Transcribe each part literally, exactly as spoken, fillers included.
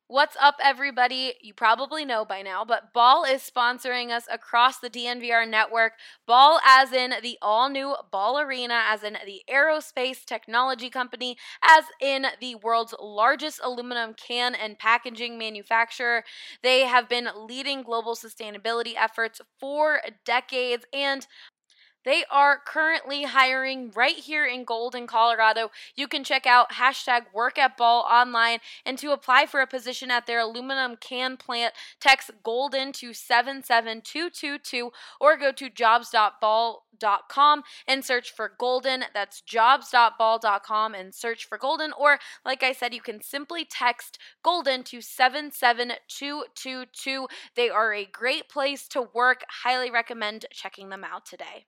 What's up, everybody? You probably know by now, but Ball is sponsoring us across the D N V R network. Ball as in the all-new Ball Arena, as in the aerospace technology company, as in the world's largest aluminum can and packaging manufacturer. They have been leading global sustainability efforts for decades, and they are currently hiring right here in Golden, Colorado. You can check out hashtag work at Ball online, and to apply for a position at their aluminum can plant, text Golden to seven seven two two two or go to jobs dot ball dot com and search for Golden. That's jobs dot ball dot com and search for Golden. Or, like I said, you can simply text Golden to seven seven two two two. They are a great place to work. Highly recommend checking them out today.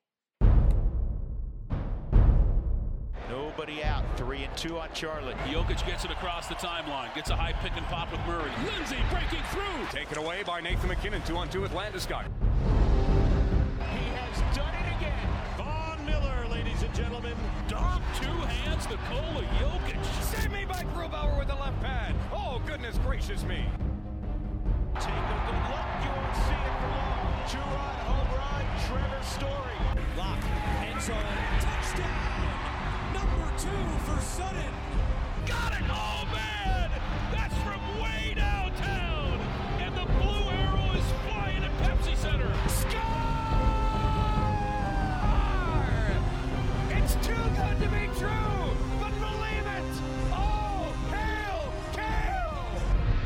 Nobody out. Three and two on Charlotte. Jokic gets it across the timeline. Gets a high pick and pop with Murray. Lindsay breaking through. Taken away by Nathan McKinnon. Two on two with Landeskog. He has done it again. Von Miller, ladies and gentlemen. Dom, two hands, Nikola Jokic. Save me by Grubauer with the left pad. Oh, goodness gracious me. Take a good look. You won't see it for long. Two-run home run. Trevor Story. Lock. End zone. Touchdown. Number two for Sutton. Got it! Oh, man! That's from way downtown! And the blue arrow is flying at Pepsi Center. Score! It's too good to be true, but believe it! Oh, hail, Kale!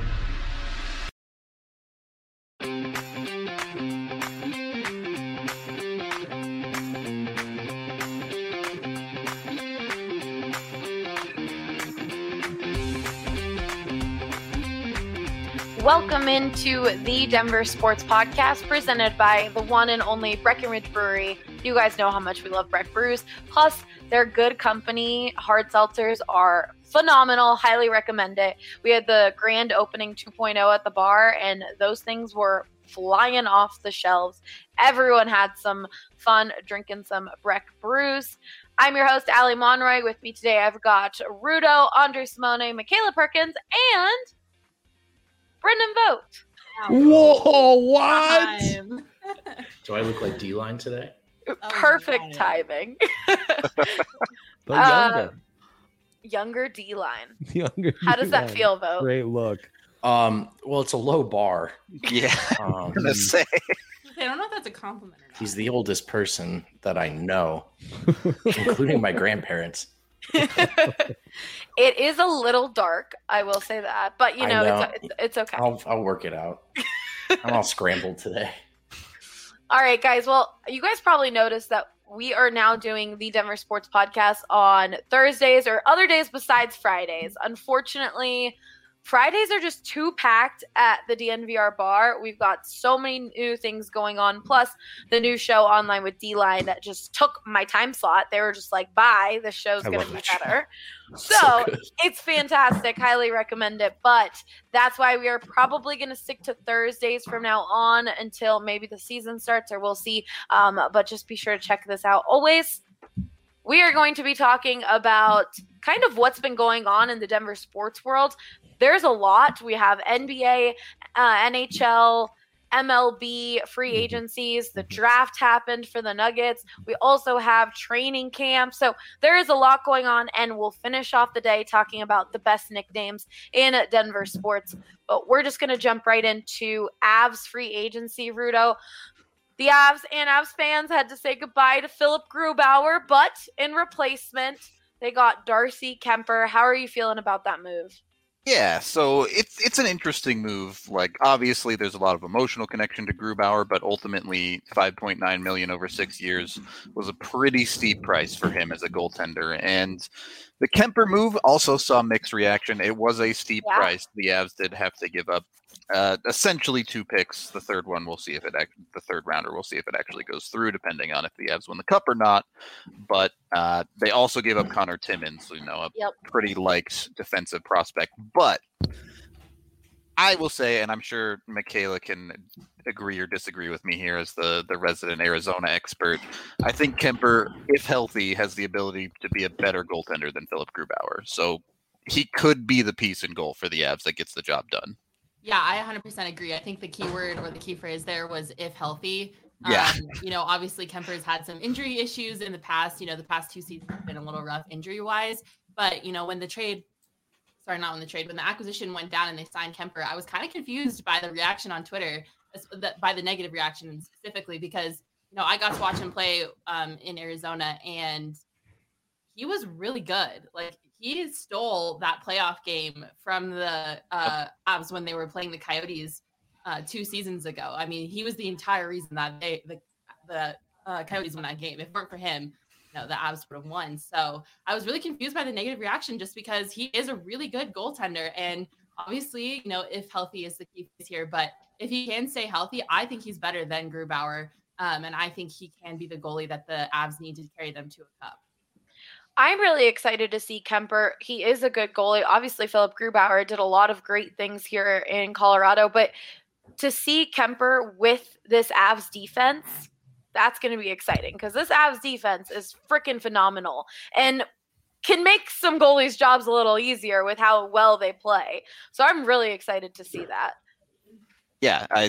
Welcome into the Denver Sports Podcast, presented by the one and only Breckenridge Brewery. You guys know how much we love Breck Brews. Plus, they're good company. Hard seltzers are phenomenal. Highly recommend it. We had the grand opening two point oh at the bar, and those things were flying off the shelves. Everyone had some fun drinking some Breck Brews. I'm your host, Allie Monroy. With me today, I've got Rudo, Andre Simone, Michaela Perkins, and Brendan Vogt. Whoa, what? Do I look like D-line today? Oh, perfect timing. But Uh, younger. younger D-line. Younger How does that D-line. feel, Vogt? Great look. Um, well, it's a low bar. Yeah, Um, I'm gonna say. I don't know if that's a compliment or not. he's the oldest person that I know, including my grandparents. It is a little dark, I will say that, but you I know, know. It's, it's it's okay. I'll I'll work it out. I'm all scrambled today. All right, guys. Well, you guys probably noticed that we are now doing the Denver Sports Podcast on Thursdays or other days besides Fridays. Unfortunately, Fridays are just too packed at the D N V R bar. We've got so many new things going on, plus the new show online with D-Line that just took my time slot. They were just like, bye, this show's I going love to be that show. better. So So good. it's fantastic. Highly recommend it. But that's why we are probably going to stick to Thursdays from now on until maybe the season starts, or we'll see. Um, but just be sure to check this out. Always, we are going to be talking about kind of what's been going on in the Denver sports world. There's a lot. We have N B A, uh, N H L, M L B, free agencies. The draft happened for the Nuggets. We also have training camp. So there is a lot going on, and we'll finish off the day talking about the best nicknames in Denver sports. But we're just going to jump right into Avs free agency, Rudo. The Avs and Avs fans had to say goodbye to Philip Grubauer, but in replacement, they got Darcy Kemper. How are you feeling about that move? Yeah, so it's it's an interesting move. Like, obviously, there's a lot of emotional connection to Grubauer, but ultimately, five point nine million dollars over six years was a pretty steep price for him as a goaltender. And the Kemper move also saw mixed reaction. It was a steep Yeah. price. The Avs did have to give up uh, essentially two picks. The third one, we'll see if it act- the third rounder, we'll see if it actually goes through, depending on if the Avs win the cup or not. But uh, they also gave up Connor Timmins, you know, a Yep. pretty liked defensive prospect. But I will say, and I'm sure Michaela can agree or disagree with me here as the, the resident Arizona expert, I think Kemper, if healthy, has the ability to be a better goaltender than Philip Grubauer. So he could be the piece in goal for the Avs that gets the job done. Yeah, I one hundred percent agree. I think the key word or the key phrase there was if healthy. Yeah. Um, you know, obviously Kemper's had some injury issues in the past. You know, the past two seasons have been a little rough injury wise. But, you know, when the trade, sorry, not when the trade, when the acquisition went down and they signed Kemper, I was kind of confused by the reaction on Twitter, by the negative reaction specifically, because, you know, I got to watch him play um, in Arizona and he was really good. Like, he stole that playoff game from the uh, Avs when they were playing the Coyotes uh, two seasons ago. I mean, he was the entire reason that they the the uh, Coyotes won that game. If it weren't for him, you know, the Avs would have won. So I was really confused by the negative reaction just because he is a really good goaltender. And obviously, you know, if healthy is the key here, but if he can stay healthy, I think he's better than Grubauer. Um, and I think he can be the goalie that the Avs need to carry them to a cup. I'm really excited to see Kemper. He is a good goalie. Obviously, Philip Grubauer did a lot of great things here in Colorado, but to see Kemper with this Avs defense, that's going to be exciting because this Avs defense is freaking phenomenal and can make some goalies' jobs a little easier with how well they play. So I'm really excited to see that. Yeah, I.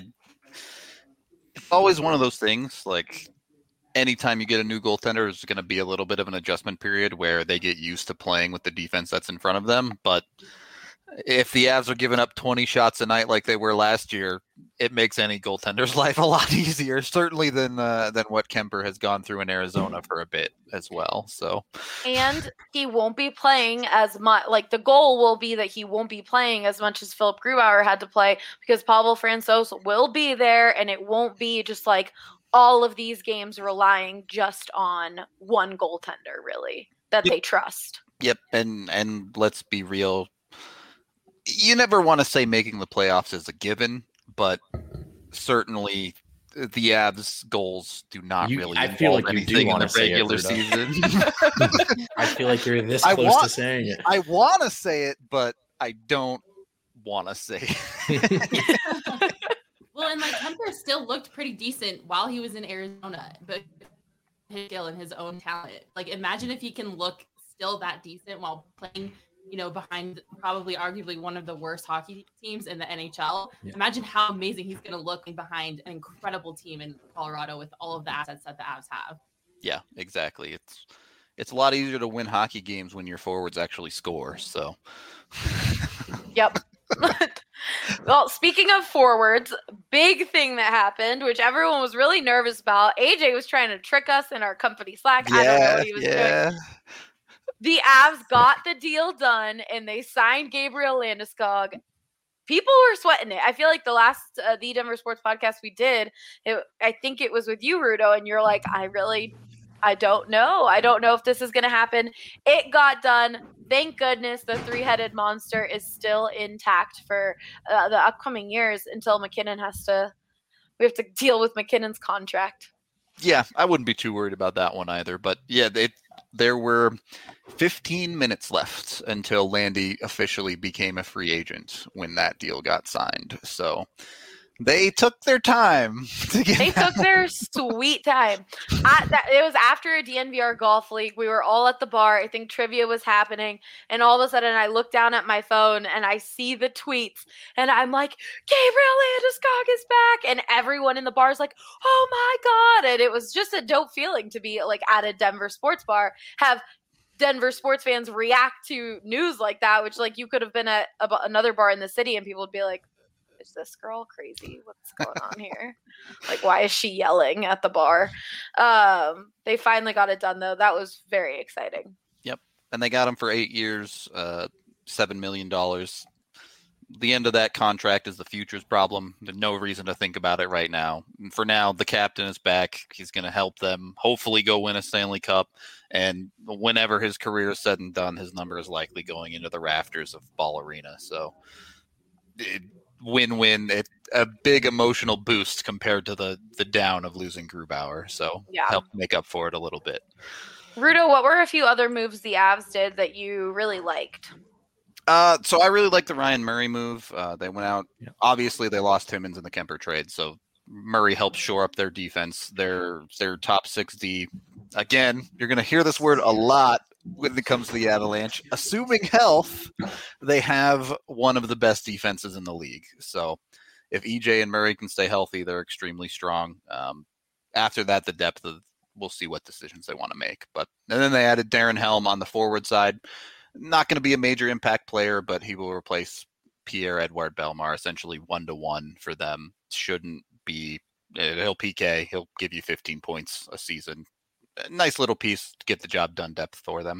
It's always one of those things, like, anytime you get a new goaltender, there's going to be a little bit of an adjustment period where they get used to playing with the defense that's in front of them. But if the Avs are giving up twenty shots a night like they were last year, it makes any goaltender's life a lot easier, certainly than uh, than what Kemper has gone through in Arizona for a bit as well. So, and he won't be playing as much. Like, the goal will be that he won't be playing as much as Philip Grubauer had to play because Pavel Francouz will be there, and it won't be just like all of these games relying just on one goaltender, really, that yep. they trust. Yep, and and let's be real. You never want to say making the playoffs is a given, but certainly the Avs goals do not You- really I involve feel like you do anything in wanna the say it, regular Rudo. season. I feel like you're this I close want- to saying it. I want to say it, but I don't want to say it. Well, and like Kemper still looked pretty decent while he was in Arizona, but his skill and his own talent. Like, imagine if he can look still that decent while playing, you know, behind probably arguably one of the worst hockey teams in the N H L. Yeah. Imagine how amazing he's going to look behind an incredible team in Colorado with all of the assets that the Avs have. Yeah, exactly. It's it's a lot easier to win hockey games when your forwards actually score. So, Yep. Well, speaking of forwards, big thing that happened, which everyone was really nervous about. A J was trying to trick us in our company Slack. I don't know what he was yeah. doing. The Avs got the deal done, and they signed Gabriel Landeskog. People were sweating it. I feel like the last uh, the Denver Sports podcast we did, it, I think it was with you, Rudo, and you're like, I really, I don't know. I don't know if this is going to happen. It got done. Thank goodness the three-headed monster is still intact for uh, the upcoming years until McKinnon has to, we have to deal with McKinnon's contract. Yeah, I wouldn't be too worried about that one either. But yeah, they, there were fifteen minutes left until Landy officially became a free agent when that deal got signed. So they took their time to get They took their sweet time. I, that, it was after a D N V R golf league. We were all at the bar. I think trivia was happening. And all of a sudden, I look down at my phone and I see the tweets. And I'm like, Gabriel Landeskog is back. And everyone in the bar is like, oh my God. And it was just a dope feeling to be like at a Denver sports bar, have Denver sports fans react to news like that, which like you could have been at a, another bar in the city and people would be like, is this girl crazy? What's going on here? Like, why is she yelling at the bar? Um, they finally got it done, though. That was very exciting. Yep. And they got him for eight years, uh, seven million dollars. The end of that contract is the futures problem. There's no reason to think about it right now. And for now, the captain is back. He's going to help them hopefully go win a Stanley Cup. And whenever his career is said and done, his number is likely going into the rafters of Ball Arena. So, it, win-win, it, a big emotional boost compared to the the down of losing Grubauer. So Yeah. help make up for it a little bit. Rudo, what were a few other moves the Avs did that you really liked? Uh, so I really like the Ryan Murray move. Uh, they went out. Yeah. Obviously, they lost Timmins in the Kemper trade, so Murray helped shore up their defense. Their their top six D. Again, you're going to hear this word a lot when it comes to the Avalanche. Assuming health, they have one of the best defenses in the league. So if E J and Murray can stay healthy, they're extremely strong. Um, after that, the depth of we'll see what decisions they want to make. But and then they added Darren Helm on the forward side. Not going to be a major impact player, but he will replace Pierre-Edouard Bellemare, essentially one-to-one for them. Shouldn't be he'll P K, he'll give you fifteen points a season. A nice little piece to get the job done depth for them.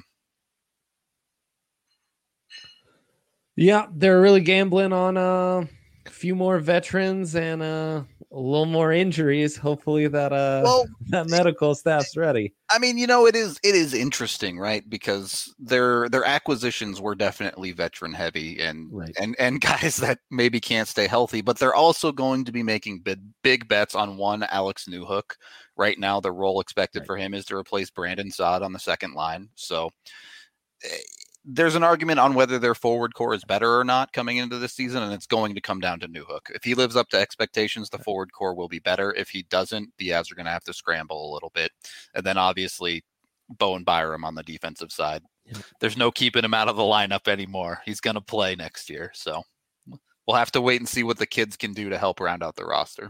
Yeah, they're really gambling on uh, a few more veterans and uh, a little more injuries. Hopefully that uh, well, that medical staff's ready. I mean, you know, it is it is interesting, right? Because their their acquisitions were definitely veteran heavy and right. and and guys that maybe can't stay healthy, but they're also going to be making big big bets on one Alex Newhook. Right now, the role expected right. for him is to replace Brandon Saad on the second line. So there's an argument on whether their forward core is better or not coming into this season, and it's going to come down to Newhook. If he lives up to expectations, the forward core will be better. If he doesn't, the Avs are going to have to scramble a little bit. And then obviously Bowen Byram on the defensive side. Yeah. There's no keeping him out of the lineup anymore. He's going to play next year. So we'll have to wait and see what the kids can do to help round out the roster.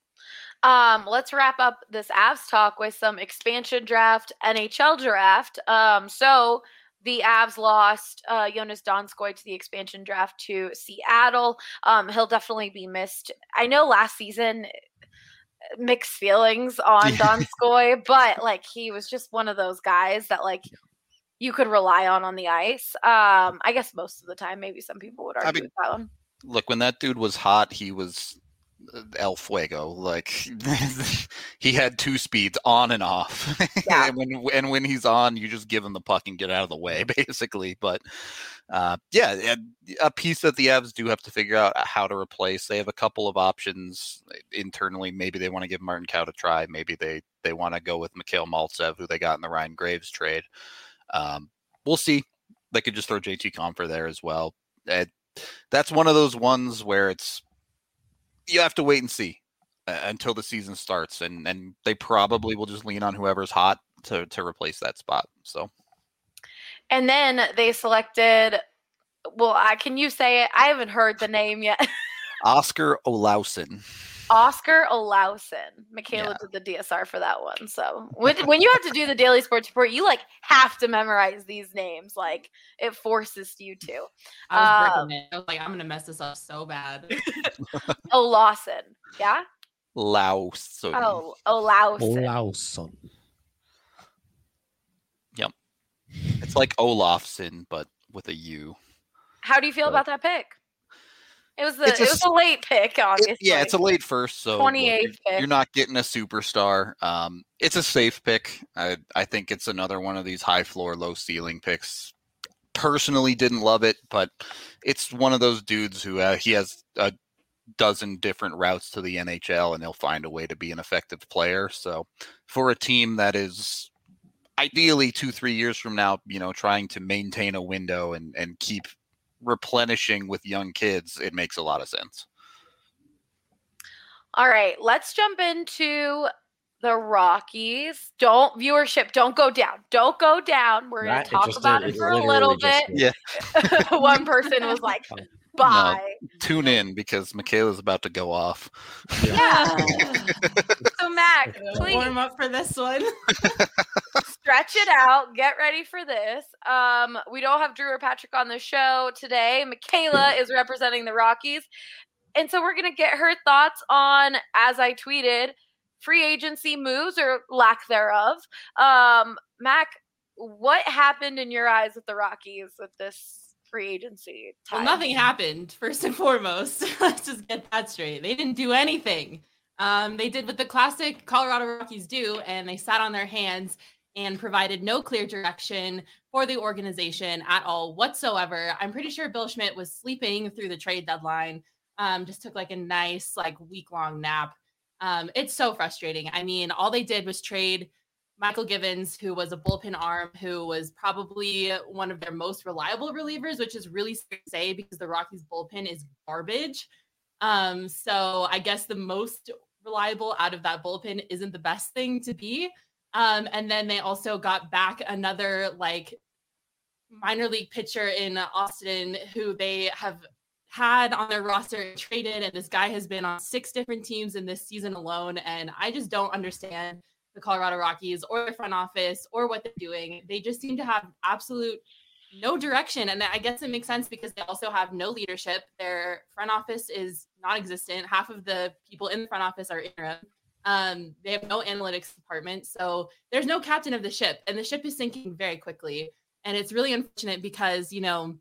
Um, let's wrap up this Avs talk with some expansion draft, N H L draft. Um, so the Avs lost uh, Jonas Donskoi to the expansion draft to Seattle. Um, he'll definitely be missed. I know last season, mixed feelings on Donskoi, but like he was just one of those guys that like you could rely on on the ice. Um, I guess most of the time, maybe some people would argue I mean, with that one. Look, when that dude was hot, he was El Fuego. Like he had two speeds on and off. Yeah. and when and when he's on, you just give him the puck and get out of the way, basically. But uh, yeah, a piece that the Avs do have to figure out how to replace. They have a couple of options internally. Maybe they want to give Martin Kaut a try. Maybe they they want to go with Mikhail Maltsev, who they got in the Ryan Graves trade. Um, we'll see. They could just throw J T Compher there as well. Uh, that's one of those ones where it's you have to wait and see uh, until the season starts, and and they probably will just lean on whoever's hot to to replace that spot. So, and then they selected. Well, I can you say it? I haven't heard the name yet. Oscar Olausson. Oscar Olausson. Michaela yeah. did the D S R for that one. So when when you have to do the Daily Sports Report, you like have to memorize these names. Like it forces you to. I was um, it. I was like, I'm gonna mess this up so bad. Olausson. Yeah. Lausson. Oh, Olausson. Olausson. Yep. It's like Olofsson, but with a U. How do you feel but, about that pick? It was the a, it was a late pick, obviously. It, yeah, it's a late first, so twenty-eighth look, pick. You're not getting a superstar. Um, it's a safe pick. I I think it's another one of these high floor, low ceiling picks. Personally, didn't love it, but it's one of those dudes who uh, he has a dozen different routes to the N H L, and he'll find a way to be an effective player. So, for a team that is ideally two, three years from now, you know, trying to maintain a window and and keep replenishing with young kids, it makes a lot of sense. All right, let's jump into the Rockies. Don't viewership, don't go down. Don't go down. We're going to talk about did. it for it a little bit. Did. Yeah. One person was like, bye. No, tune in because Michaela's about to go off. Yeah. So Mac, please warm up for this one. Stretch it out. Get ready for this. Um, we don't have Drew or Patrick on the show today. Michaela is representing the Rockies. And so we're going to get her thoughts on, as I tweeted, free agency moves or lack thereof. Um, Mac, what happened in your eyes with the Rockies with this free agency time? Well, nothing happened, first and foremost. Let's just get that straight. They didn't do anything. Um, they did what the classic Colorado Rockies do, and they sat on their hands and provided no clear direction for the organization at all whatsoever. I'm pretty sure Bill Schmidt was sleeping through the trade deadline, um, just took like a nice like week-long nap. Um, it's so frustrating. I mean, all they did was trade Michael Givens, who was a bullpen arm, who was probably one of their most reliable relievers, which is really scary to say because the Rockies bullpen is garbage. Um, so I guess the most reliable out of that bullpen isn't the best thing to be. Um, and then they also got back another like minor league pitcher in Austin who they have had on their roster and traded, and this guy has been on six different teams in this season alone. And I just don't understand the Colorado Rockies or the front office or what they're doing. They just seem to have absolute no direction. And I guess it makes sense because they also have no leadership. Their front office is non-existent. Half of the people in the front office are interim. Um, they have no analytics department. So there's no captain of the ship, and the ship is sinking very quickly. And it's really unfortunate because, you know,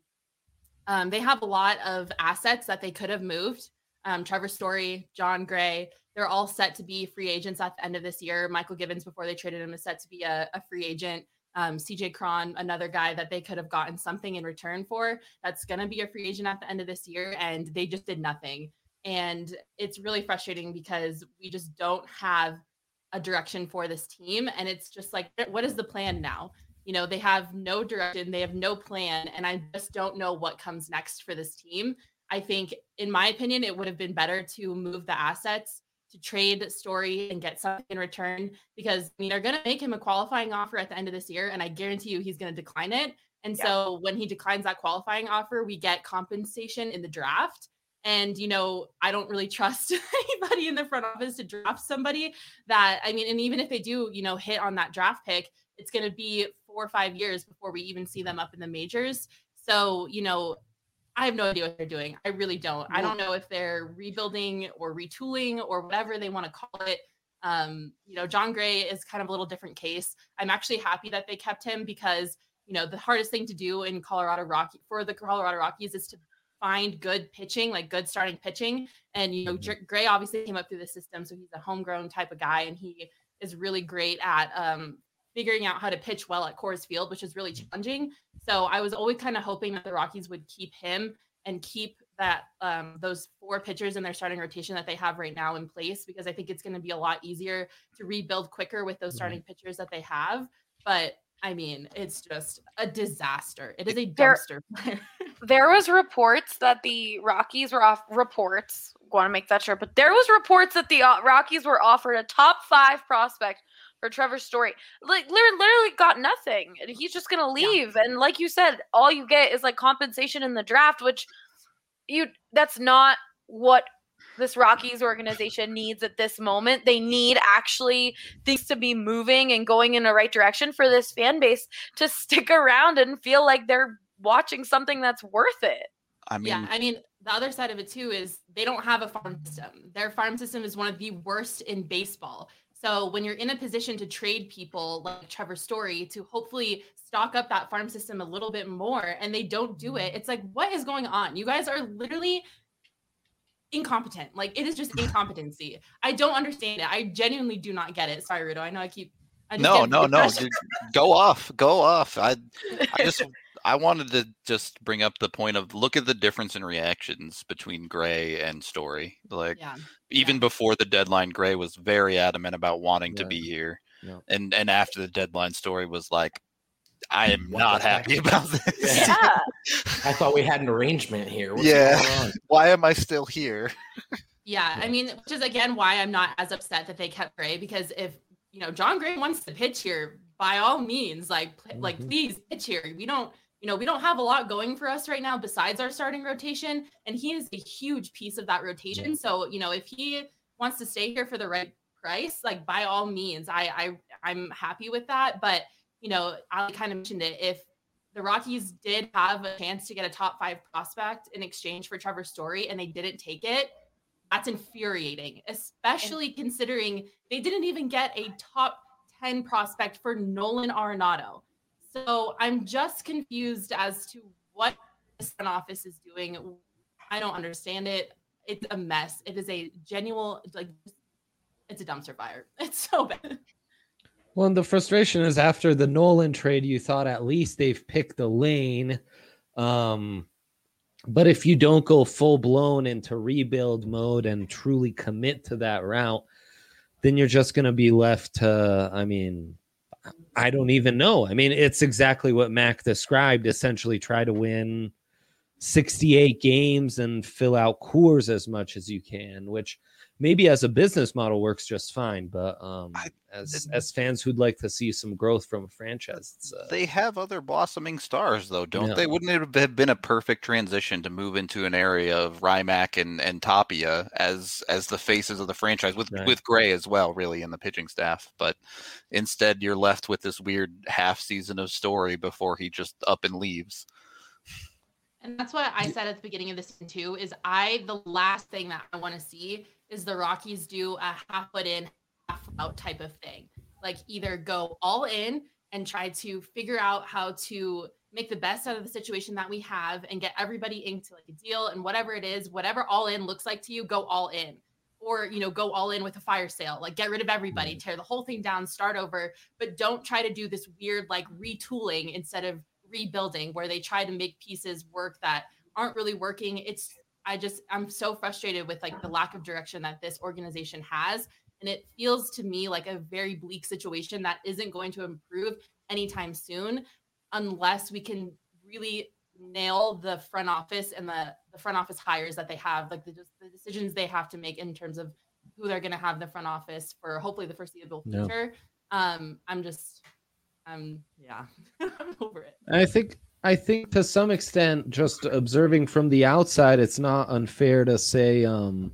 um, they have a lot of assets that they could have moved. Um, Trevor Story, John Gray, they're all set to be free agents at the end of this year. Michael Givens, before they traded him, is set to be a, a free agent. Um, C J Cron, another guy that they could have gotten something in return for, that's going to be a free agent at the end of this year. And they just did nothing. And it's really frustrating because we just don't have a direction for this team. And it's just like, what is the plan now? You know, they have no direction, they have no plan. And I just don't know what comes next for this team. I think, in my opinion, it would have been better to move the assets, to trade Story and get something in return, because I mean, they're going to make him a qualifying offer at the end of this year. And I guarantee you he's going to decline it. And yeah. So when he declines that qualifying offer, we get compensation in the draft. And, you know, I don't really trust anybody in the front office to draft somebody that, I mean, and even if they do, you know, hit on that draft pick, it's going to be four or five years before we even see them up in the majors. So, you know, I have no idea what they're doing. I really don't. I don't know if they're rebuilding or retooling or whatever they want to call it. Um, you know, John Gray is kind of a little different case. I'm actually happy that they kept him because, you know, the hardest thing to do in Colorado Rocky for the Colorado Rockies is to find good pitching, like good starting pitching. And, you know, Gray obviously came up through the system, so he's a homegrown type of guy, and he is really great at um, figuring out how to pitch well at Coors Field, which is really challenging. So I was always kind of hoping that the Rockies would keep him and keep that um, those four pitchers in their starting rotation that they have right now in place, because I think it's going to be a lot easier to rebuild quicker with those starting pitchers that they have. But I mean, it's just a disaster. It is a dumpster fire. There was reports that the Rockies were off reports. Want to make that sure, but there was reports that the uh, Rockies were offered a top five prospect for Trevor Story. Like literally got nothing, and he's just gonna leave. Yeah. And like you said, all you get is like compensation in the draft, which you that's not what this Rockies organization needs at this moment. They need actually things to be moving and going in the right direction for this fan base to stick around and feel like they're watching something that's worth it. I mean, yeah, I mean, the other side of it too is they don't have a farm system. Their farm system is one of the worst in baseball. So when you're in a position to trade people like Trevor Story to hopefully stock up that farm system a little bit more, and they don't do it, it's like, what is going on? You guys are literally incompetent. Like, it is just incompetency. I don't understand it. I genuinely do not get it. Sorry, Rudo. I know I keep. I just no, no, no. Go off. Go off. I, I just. I wanted to just bring up the point of look at the difference in reactions between Gray and Story. Like yeah. even yeah. before the deadline, Gray was very adamant about wanting yeah. to be here. Yeah. And and after the deadline, Story was like, I am what not happy heck? about this. Yeah. I thought we had an arrangement here. What's yeah. Why am I still here? yeah. I mean, which is again why I'm not as upset that they kept Gray, because if you know John Gray wants to pitch here, by all means, like mm-hmm. like please pitch here. We don't You know, we don't have a lot going for us right now besides our starting rotation, and he is a huge piece of that rotation. So, you know, if he wants to stay here for the right price, like by all means, I, I I'm happy with that. But, you know, I kind of mentioned it. If the Rockies did have a chance to get a top five prospect in exchange for Trevor Story and they didn't take it, that's infuriating, especially considering they didn't even get a top ten prospect for Nolan Arenado. So I'm just confused as to what the front office is doing. I don't understand it. It's a mess. It is a genuine, like, it's a dumpster fire. It's so bad. Well, and the frustration is after the Nolan trade, you thought at least they've picked a lane. Um, but if you don't go full blown into rebuild mode and truly commit to that route, then you're just going to be left to, I mean, I don't even know. I mean, it's exactly what Mac described. Essentially, try to win sixty-eight games and fill out Coors as much as you can, which maybe as a business model works just fine, but um, I, as as fans who'd like to see some growth from a franchise, it's, uh, they have other blossoming stars, though, don't yeah. they? Wouldn't it have been a perfect transition to move into an area of Rymack and, and Tapia as as the faces of the franchise, with Right. with Gray as well, really, in the pitching staff? But instead, you're left with this weird half season of Story before he just up and leaves. And that's what I said at the beginning of this season too, is I, the last thing that I want to see is the Rockies do a half foot in, half out type of thing. Like either go all in and try to figure out how to make the best out of the situation that we have and get everybody into like a deal, and whatever it is, whatever all in looks like to you, go all in. Or, you know, go all in with a fire sale, like get rid of everybody, tear the whole thing down, start over, but don't try to do this weird like retooling instead of rebuilding where they try to make pieces work that aren't really working. It's, I just, I'm so frustrated with like the lack of direction that this organization has. And it feels to me like a very bleak situation that isn't going to improve anytime soon unless we can really nail the front office and the, the front office hires that they have, like the, the decisions they have to make in terms of who they're going to have in the front office for hopefully the foreseeable future. No. Um, I'm just, um, yeah, I'm over it. I think, I think to some extent, just observing from the outside, it's not unfair to say um,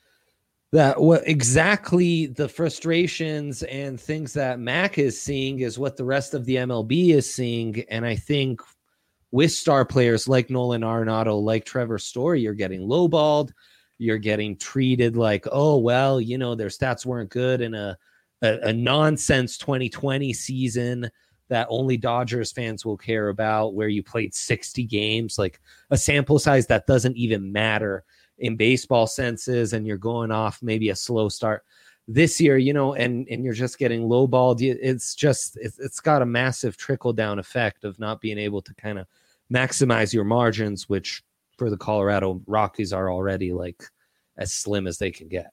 that what exactly the frustrations and things that Mac is seeing is what the rest of the M L B is seeing. And I think with star players like Nolan Arenado, like Trevor Story, you're getting lowballed. You're getting treated like, oh, well, you know, their stats weren't good in a, a, a nonsense twenty twenty season that only Dodgers fans will care about, where you played sixty games, like a sample size that doesn't even matter in baseball senses, and you're going off maybe a slow start this year, you know, and, and you're just getting lowballed. It's just, it's, it's got a massive trickle down effect of not being able to kind of maximize your margins, which for the Colorado Rockies are already like as slim as they can get.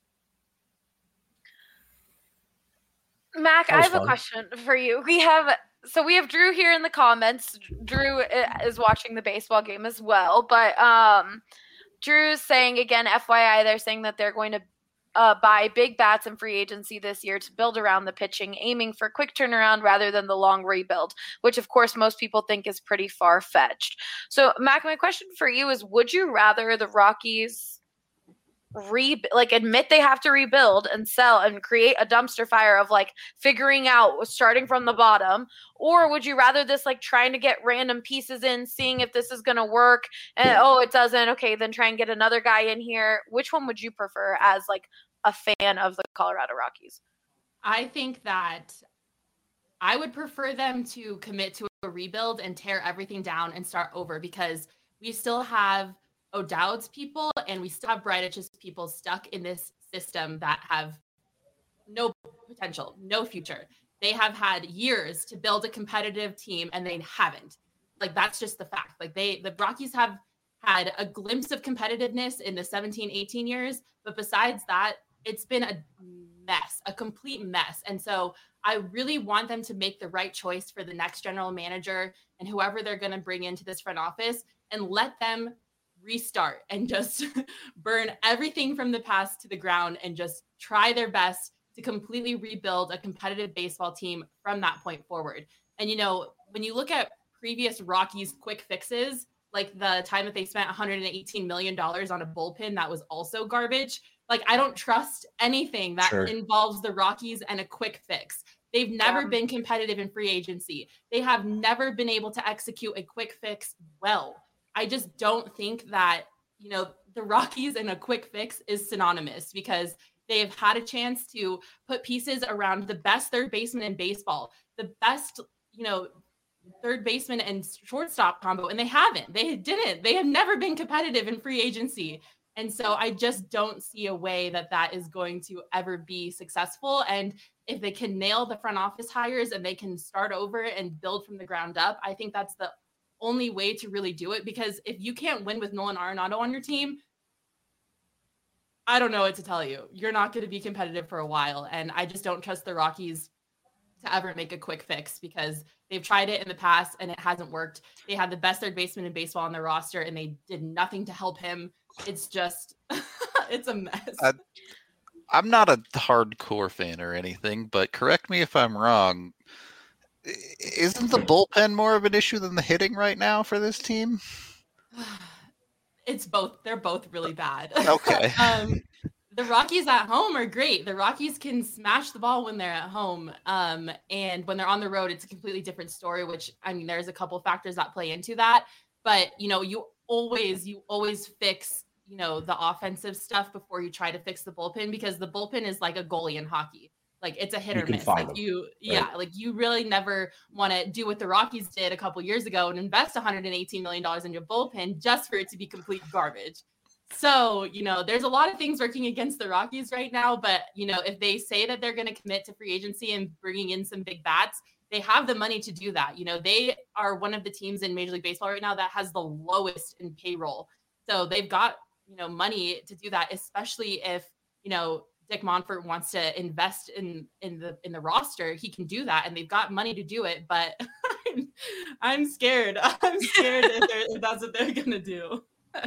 Mac, I have fun. a question for you. We have, so we have Drew here in the comments. Drew is watching the baseball game as well, but um, Drew's saying again, F Y I, they're saying that they're going to Uh, buy big bats in free agency this year to build around the pitching, aiming for quick turnaround rather than the long rebuild, which of course most people think is pretty far-fetched. So Mac, my question for you is, would you rather the Rockies re like admit they have to rebuild and sell and create a dumpster fire of like figuring out starting from the bottom, or would you rather this like trying to get random pieces in, seeing if this is going to work, and oh, it doesn't, okay, then try and get another guy in here? Which one would you prefer as like a fan of the Colorado Rockies? I think that I would prefer them to commit to a rebuild and tear everything down and start over, because we still have O'Dowd's people and we still have Breitich's people stuck in this system that have no potential, no future. They have had years to build a competitive team and they haven't. Like, that's just the fact. Like, they, the Rockies have had a glimpse of competitiveness in the seventeen, eighteen years, but besides that, it's been a mess, a complete mess. And so I really want them to make the right choice for the next general manager and whoever they're going to bring into this front office, and let them restart and just burn everything from the past to the ground and just try their best to completely rebuild a competitive baseball team from that point forward. And, you know, when you look at previous Rockies quick fixes, like the time that they spent one hundred eighteen million dollars on a bullpen that was also garbage, like, I don't trust anything that Sure. involves the Rockies and a quick fix. They've never Yeah. been competitive in free agency. They have never been able to execute a quick fix well. I just don't think that, you know, the Rockies and a quick fix is synonymous, because they've had a chance to put pieces around the best third baseman in baseball, the best, you know, third baseman and shortstop combo, and they haven't. They didn't. They have never been competitive in free agency. And so I just don't see a way that that is going to ever be successful. And if they can nail the front office hires and they can start over and build from the ground up, I think that's the only way to really do it. Because if you can't win with Nolan Arenado on your team, I don't know what to tell you. You're not going to be competitive for a while. And I just don't trust the Rockies to ever make a quick fix because they've tried it in the past and it hasn't worked. They had the best third baseman in baseball on their roster and they did nothing to help him. It's just, it's a mess. I, I'm not a hardcore fan or anything, but correct me if I'm wrong. Isn't the bullpen more of an issue than the hitting right now for this team? It's both. They're both really bad. Okay. um, the Rockies at home are great. The Rockies can smash the ball when they're at home. Um, and when they're on the road, it's a completely different story, which, I mean, there's a couple factors that play into that. But, you know, you always, you always fix, you know, the offensive stuff before you try to fix the bullpen because the bullpen is like a goalie in hockey. Like it's a hit or miss. Like you, right? Yeah, like you really never want to do what the Rockies did a couple years ago and invest one hundred eighteen million dollars in your bullpen just for it to be complete garbage. So, you know, there's a lot of things working against the Rockies right now, but, you know, if they say that they're going to commit to free agency and bringing in some big bats, they have the money to do that. You know, they are one of the teams in Major League Baseball right now that has the lowest in payroll. So they've got, you know, money to do that, especially if, you know, Dick Monfort wants to invest in in the in the roster, he can do that, and they've got money to do it. But I'm, I'm scared. I'm scared if, if that's what they're gonna do.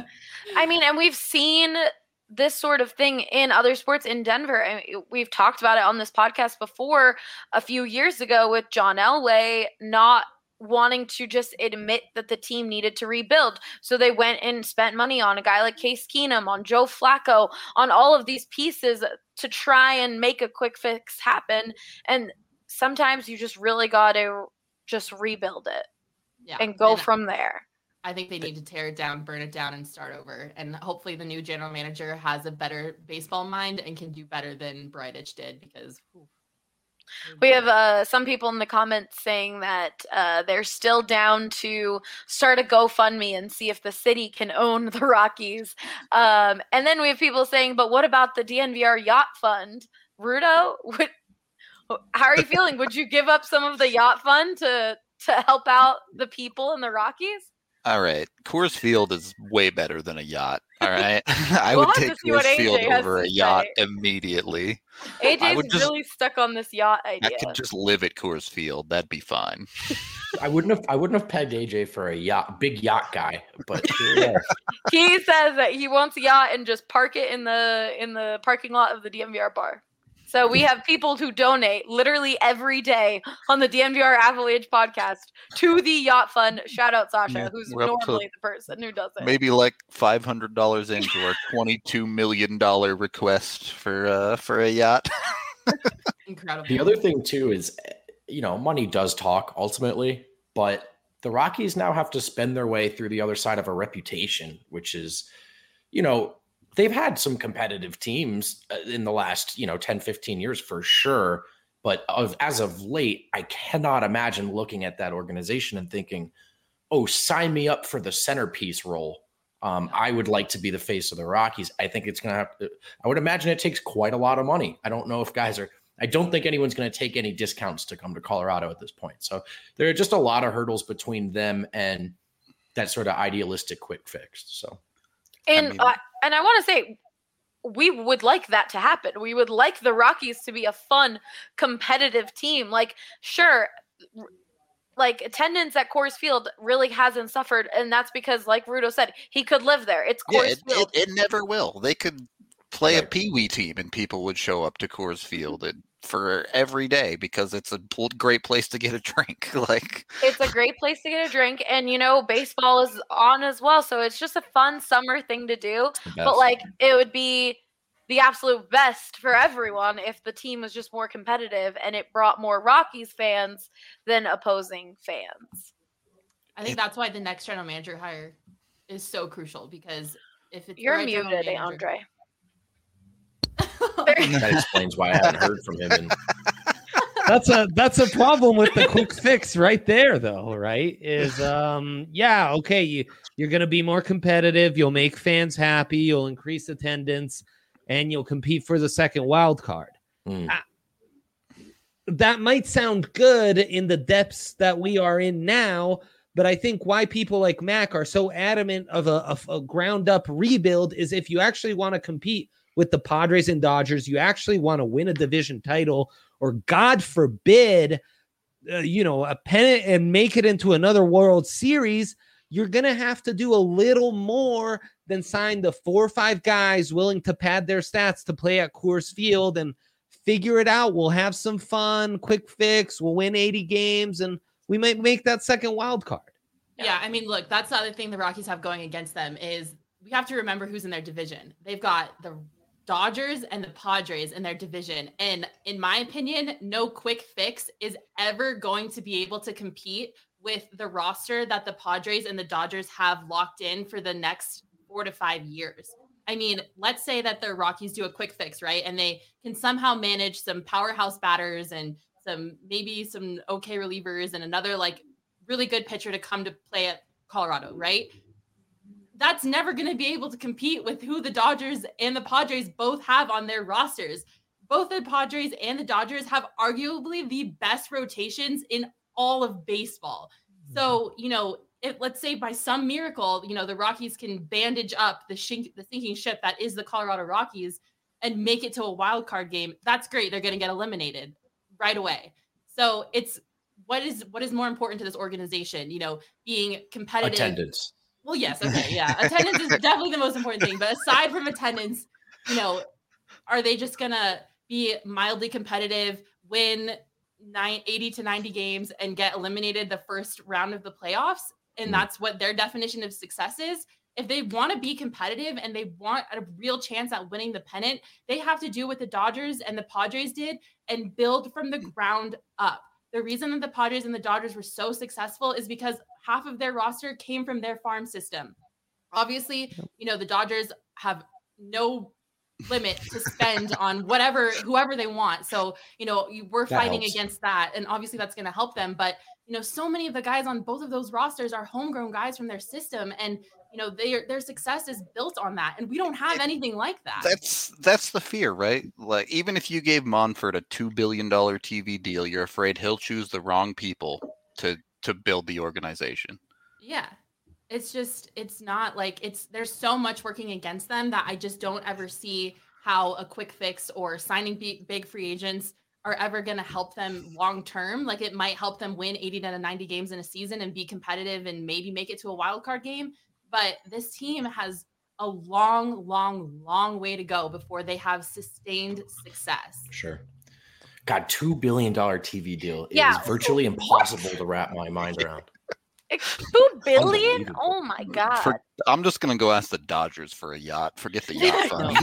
I mean, and we've seen this sort of thing in other sports in Denver. I mean, we've talked about it on this podcast before a few years ago with John Elway not wanting to just admit that the team needed to rebuild. So they went and spent money on a guy like Case Keenum, on Joe Flacco, on all of these pieces to try and make a quick fix happen. And sometimes you just really got to just rebuild it yeah, and go and from there. I think they need to tear it down, burn it down, and start over. And hopefully the new general manager has a better baseball mind and can do better than Bridich did because whew, we have uh, some people in the comments saying that uh, they're still down to start a GoFundMe and see if the city can own the Rockies. Um, and then we have people saying, but what about the D N V R Yacht Fund? Rudo, would, how are you feeling? Would you give up some of the Yacht Fund to, to help out the people in the Rockies? All right. Coors Field is way better than a yacht. All right. I We'll would have take to see what Coors A J Field has over to a yacht say. immediately. A I J's would just- really stuck on this yacht idea. I could just live at Coors Field. That'd be fine. I wouldn't have I wouldn't have pegged A J for a yacht, big yacht guy, but yeah. He says that he wants a yacht and just park it in the in the parking lot of the D N V R bar. So we have people who donate literally every day on the D N V R Avalanche podcast to the Yacht Fund. Shout out Sasha, Yeah, who's we're up to normally the person who does it. Maybe like five hundred dollars into our twenty-two million dollars request for uh, for a yacht. incredible. The other thing too is, you know, money does talk ultimately, but the Rockies now have to spend their way through the other side of a reputation, which is, you know, they've had some competitive teams in the last, you know, ten, fifteen years for sure. But of, as of late, I cannot imagine looking at that organization and thinking, oh, sign me up for the centerpiece role. Um, I would like to be the face of the Rockies. I think it's going to have to, I would imagine it takes quite a lot of money. I don't know if guys are, I don't think anyone's going to take any discounts to come to Colorado at this point. So there are just a lot of hurdles between them and that sort of idealistic quick fix. So. And I mean- uh, and I want to say, we would like that to happen. We would like the Rockies to be a fun, competitive team. Like, sure, like attendance at Coors Field really hasn't suffered, and that's because, like Rudo said, he could live there. It's Yeah, Coors it, Field. it, it never will. They could play a Right. peewee team and people would show up to Coors Field and, for every day because it's a pl- great place to get a drink. Like It's a great place to get a drink, and you know, baseball is on as well, so it's just a fun summer thing to do. But like, it would be the absolute best for everyone if the team was just more competitive and it brought more Rockies fans than opposing fans. I think that's why the next general manager hire is so crucial because if it's the You're right general muted, manager- Andre. that explains why I haven't heard from him. In, That's a that's a problem with the quick fix right there, though, right? Is um yeah, okay, you you're gonna be more competitive, you'll make fans happy, you'll increase attendance, and you'll compete for the second wild card. Mm. Uh, that might sound good in the depths that we are in now, but I think why people like Mac are so adamant of a, of a ground up rebuild is if you actually want to compete with the Padres and Dodgers, you actually want to win a division title, or God forbid, uh, you know, a pennant and make it into another World Series, you're going to have to do a little more than sign the four or five guys willing to pad their stats to play at Coors Field and figure it out. We'll have some fun, quick fix. We'll win eighty games, and we might make that second wild card. Yeah, I mean, look, that's the other thing the Rockies have going against them is we have to remember who's in their division. They've got the Dodgers and the Padres in their division. And in my opinion, no quick fix is ever going to be able to compete with the roster that the Padres and the Dodgers have locked in for the next four to five years. I mean, let's say that the Rockies do a quick fix, right? And they can somehow manage some powerhouse batters and some, maybe some okay relievers and another like really good pitcher to come to play at Colorado, right? That's never going to be able to compete with who the Dodgers and the Padres both have on their rosters. Both the Padres and the Dodgers have arguably the best rotations in all of baseball. So, you know, if let's say by some miracle, you know, the Rockies can bandage up the shink, the sinking ship that is the Colorado Rockies and make it to a wild card game, that's great. They're going to get eliminated right away. So it's, what is, what is more important to this organization, you know, being competitive. Attendance. Well, yes. Okay. Yeah. Attendance is definitely the most important thing, but aside from attendance, you know, are they just going to be mildly competitive, win nine, eighty to ninety games and get eliminated the first round of the playoffs? And mm. that's what their definition of success is. If they want to be competitive and they want a real chance at winning the pennant, they have to do what the Dodgers and the Padres did and build from the ground up. The reason that the Padres and the Dodgers were so successful is because half of their roster came from their farm system. Obviously, you know, the Dodgers have no limit to spend on whatever, whoever they want. So, you know, we're that fighting helps. against that. And obviously that's going to help them. But, you know, so many of the guys on both of those rosters are homegrown guys from their system. And, you know, their their success is built on that. And we don't have anything like that. That's that's the fear, right? Like, even if you gave Monfort a two billion dollars T V deal, you're afraid he'll choose the wrong people to to build the organization. Yeah. It's just, it's not like it's, there's so much working against them that I just don't ever see how a quick fix or signing big, big free agents are ever going to help them long-term. Like it might help them win eighty to ninety games in a season and be competitive and maybe make it to a wild card game. But this team has a long, long, long way to go before they have sustained success. Sure. God, two billion dollars T V deal is Yeah. virtually impossible to wrap my mind around. Two billion? Oh my god! For, I'm just gonna go ask the Dodgers for a yacht. Forget the yacht fund.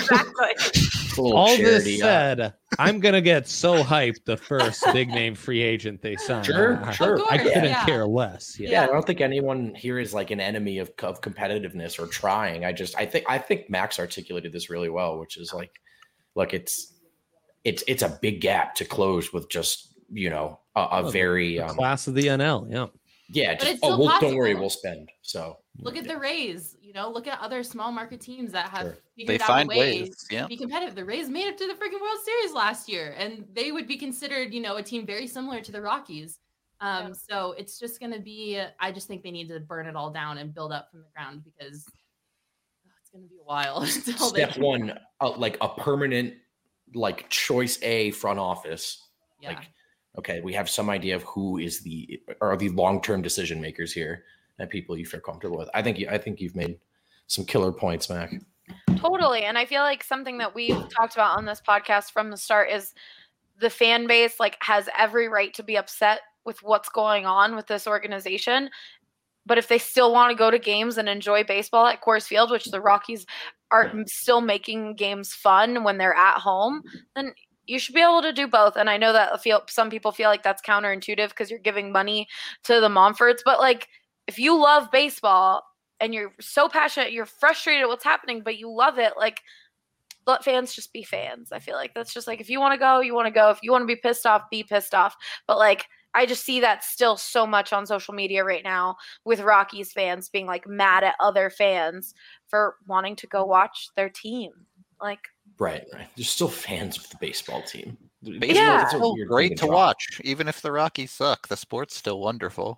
Exactly. All this said, I'm gonna get so hyped the first big name free agent they sign. Sure, I, sure. I couldn't yeah. care less. Yeah. Yeah, I don't think anyone here is like an enemy of, of competitiveness or trying. I just, I think, I think Max articulated this really well, which is like, look, it's, it's, it's a big gap to close with just, you know, a, a Oh, very the um, class of the N L. Yeah. yeah. But Just, it's oh, still we'll, don't possible. worry, we'll spend. So Look at the Rays, you know, look at other small market teams that have Sure. figured They out find a way ways, yeah. to be competitive. The Rays made it to the freaking World Series last year, and they would be considered, you know, a team very similar to the Rockies. Um, Yeah. So it's just going to be, I just think they need to burn it all down and build up from the ground because oh, it's going to be a while. Until they step one, uh, like a permanent, like choice A front office. Yeah. Like, okay, we have some idea of who is the are the long-term decision makers here and people you feel comfortable with. I think you, I think you've made some killer points, Mac. Totally. And I feel like something that we've talked about on this podcast from the start is the fan base like has every right to be upset with what's going on with this organization. But if they still want to go to games and enjoy baseball at Coors Field, which the Rockies are still making games fun when they're at home, then you should be able to do both. And I know that feel some people feel like that's counterintuitive because you're giving money to the Monforts, but like if you love baseball and you're so passionate, you're frustrated at what's happening, but you love it, like let fans just be fans. I feel like that's just like if you want to go, you want to go. If you want to be pissed off, be pissed off. But like I just see that still so much on social media right now with Rockies fans being like mad at other fans for wanting to go watch their team. Like Right, right. There's still fans of the baseball team. Baseball Yeah. is still great to watch, even if the Rockies suck. The sport's still wonderful.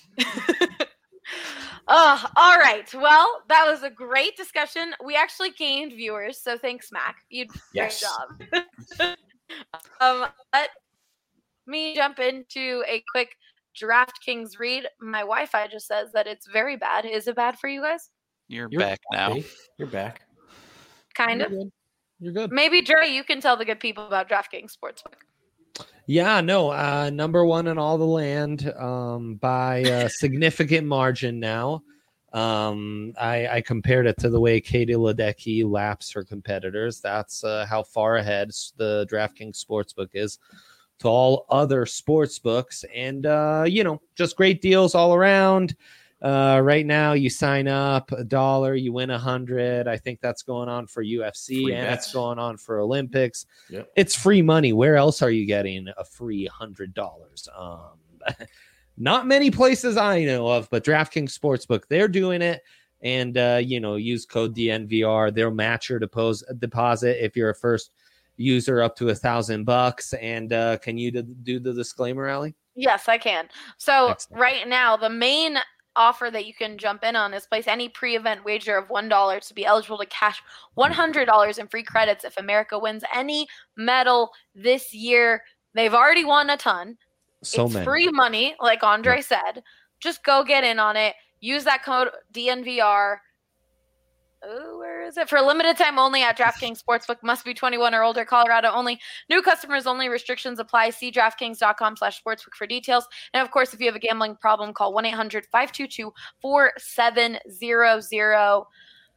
Oh, all right. Well, that was a great discussion. We actually gained viewers, so thanks, Mac. You did a Yes. great job. um, let me jump into a quick DraftKings read. My Wi-Fi just says that it's very bad. Is it bad for you guys? You're, You're back now. Hey, You're back. Kind You're of. good. You're good. Maybe Dre, you can tell the good people about DraftKings Sportsbook. Yeah, no, uh, number one in all the land um, by a significant margin now. Um, I, I compared it to the way Katie Ledecky laps her competitors. That's uh, how far ahead the DraftKings Sportsbook is to all other sports books. And, uh, you know, just great deals all around. Uh, right now, you sign up a dollar, you win a hundred. I think that's going on for U F C Free and bets. it's going on for Olympics. Yep. It's free money. Where else are you getting a free hundred dollars? Um, not many places I know of, but DraftKings Sportsbook, they're doing it. And uh, you know, use code D N V R. They'll match your depos- deposit if you're a first user up to a thousand bucks. And uh, can you do, do the disclaimer, Allie? Yes, I can. So Excellent. right now, the main offer that you can jump in on is place any pre-event wager of one dollar to be eligible to cash one hundred dollars in free credits if America wins any medal this year. They've already won a ton. So it's many. free money, like Andre said. Just go get in on it. Use that code D N V R. Oh, where is it? For a limited time only at DraftKings Sportsbook. Must be twenty-one or older. Colorado only. New customers only. Restrictions apply. See DraftKings.com slash sportsbook for details. And, of course, if you have a gambling problem, call one eight hundred five two two four seven zero zero.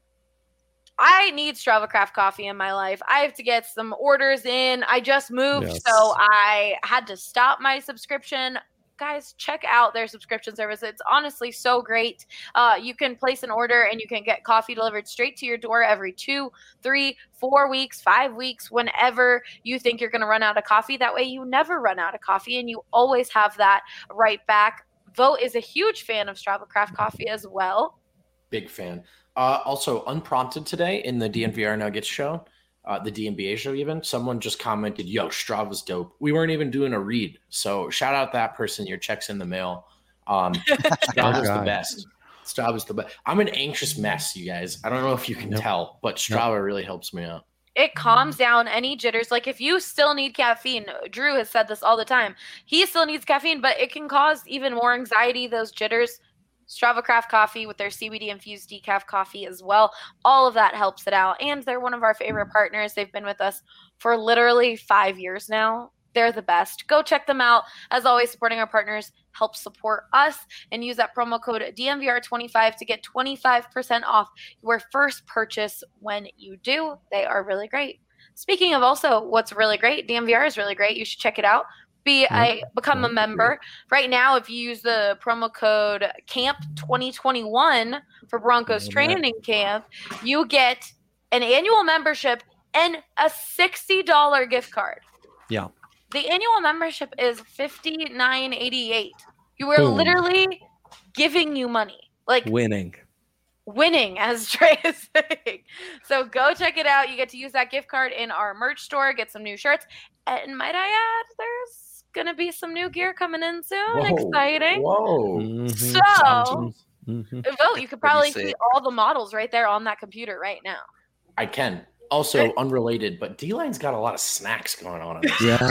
I need Strava Craft coffee in my life. I have to get some orders in. I just moved, Yes. so I had to stop my subscription. Guys, check out their subscription service. It's honestly so great. Uh, you can place an order and you can get coffee delivered straight to your door every two, three, four weeks, five weeks, whenever you think you're going to run out of coffee. That way you never run out of coffee and you always have that right back. Vote is a huge fan of Strava Craft coffee as well. Big fan. Uh, also, unprompted today in the D N V R Nuggets show, uh, the D N B A show even, someone just commented, yo, Strava's dope. We weren't even doing a read. So shout out that person. Your check's in the mail. Um, Strava's the God. best. Strava's the best. I'm an anxious mess, you guys. I don't know if you can Nope. tell, but Strava really helps me out. It calms down any jitters. Like if you still need caffeine, Drew has said this all the time. He still needs caffeine, but it can cause even more anxiety, those jitters. Strava Craft coffee with their C B D infused decaf coffee as well. All of that helps it out. And they're one of our favorite partners. They've been with us for literally five years now. They're the best. Go check them out. As always, supporting our partners helps support us. And use that promo code D N V R twenty-five to get twenty-five percent off your first purchase when you do. They are really great. Speaking of also what's really great, D N V R is really great. You should check it out. Be a become a member right now. If you use the promo code camp twenty twenty-one for Broncos training camp, you get an annual membership and a sixty dollars gift card. Yeah. The annual membership is fifty-nine eighty-eight. You are Boom. literally giving you money, like Winning. winning, as Trey is saying. So go check it out. You get to use that gift card in our merch store, get some new shirts. And might I add, there's going to be some new gear coming in soon. Whoa. Exciting. Whoa. Mhm. So, Mhm. vote. You could probably sick. see all the models right there on that computer right now. I can. Also, unrelated, but D-Line's got a lot of snacks going on. in this. Yeah.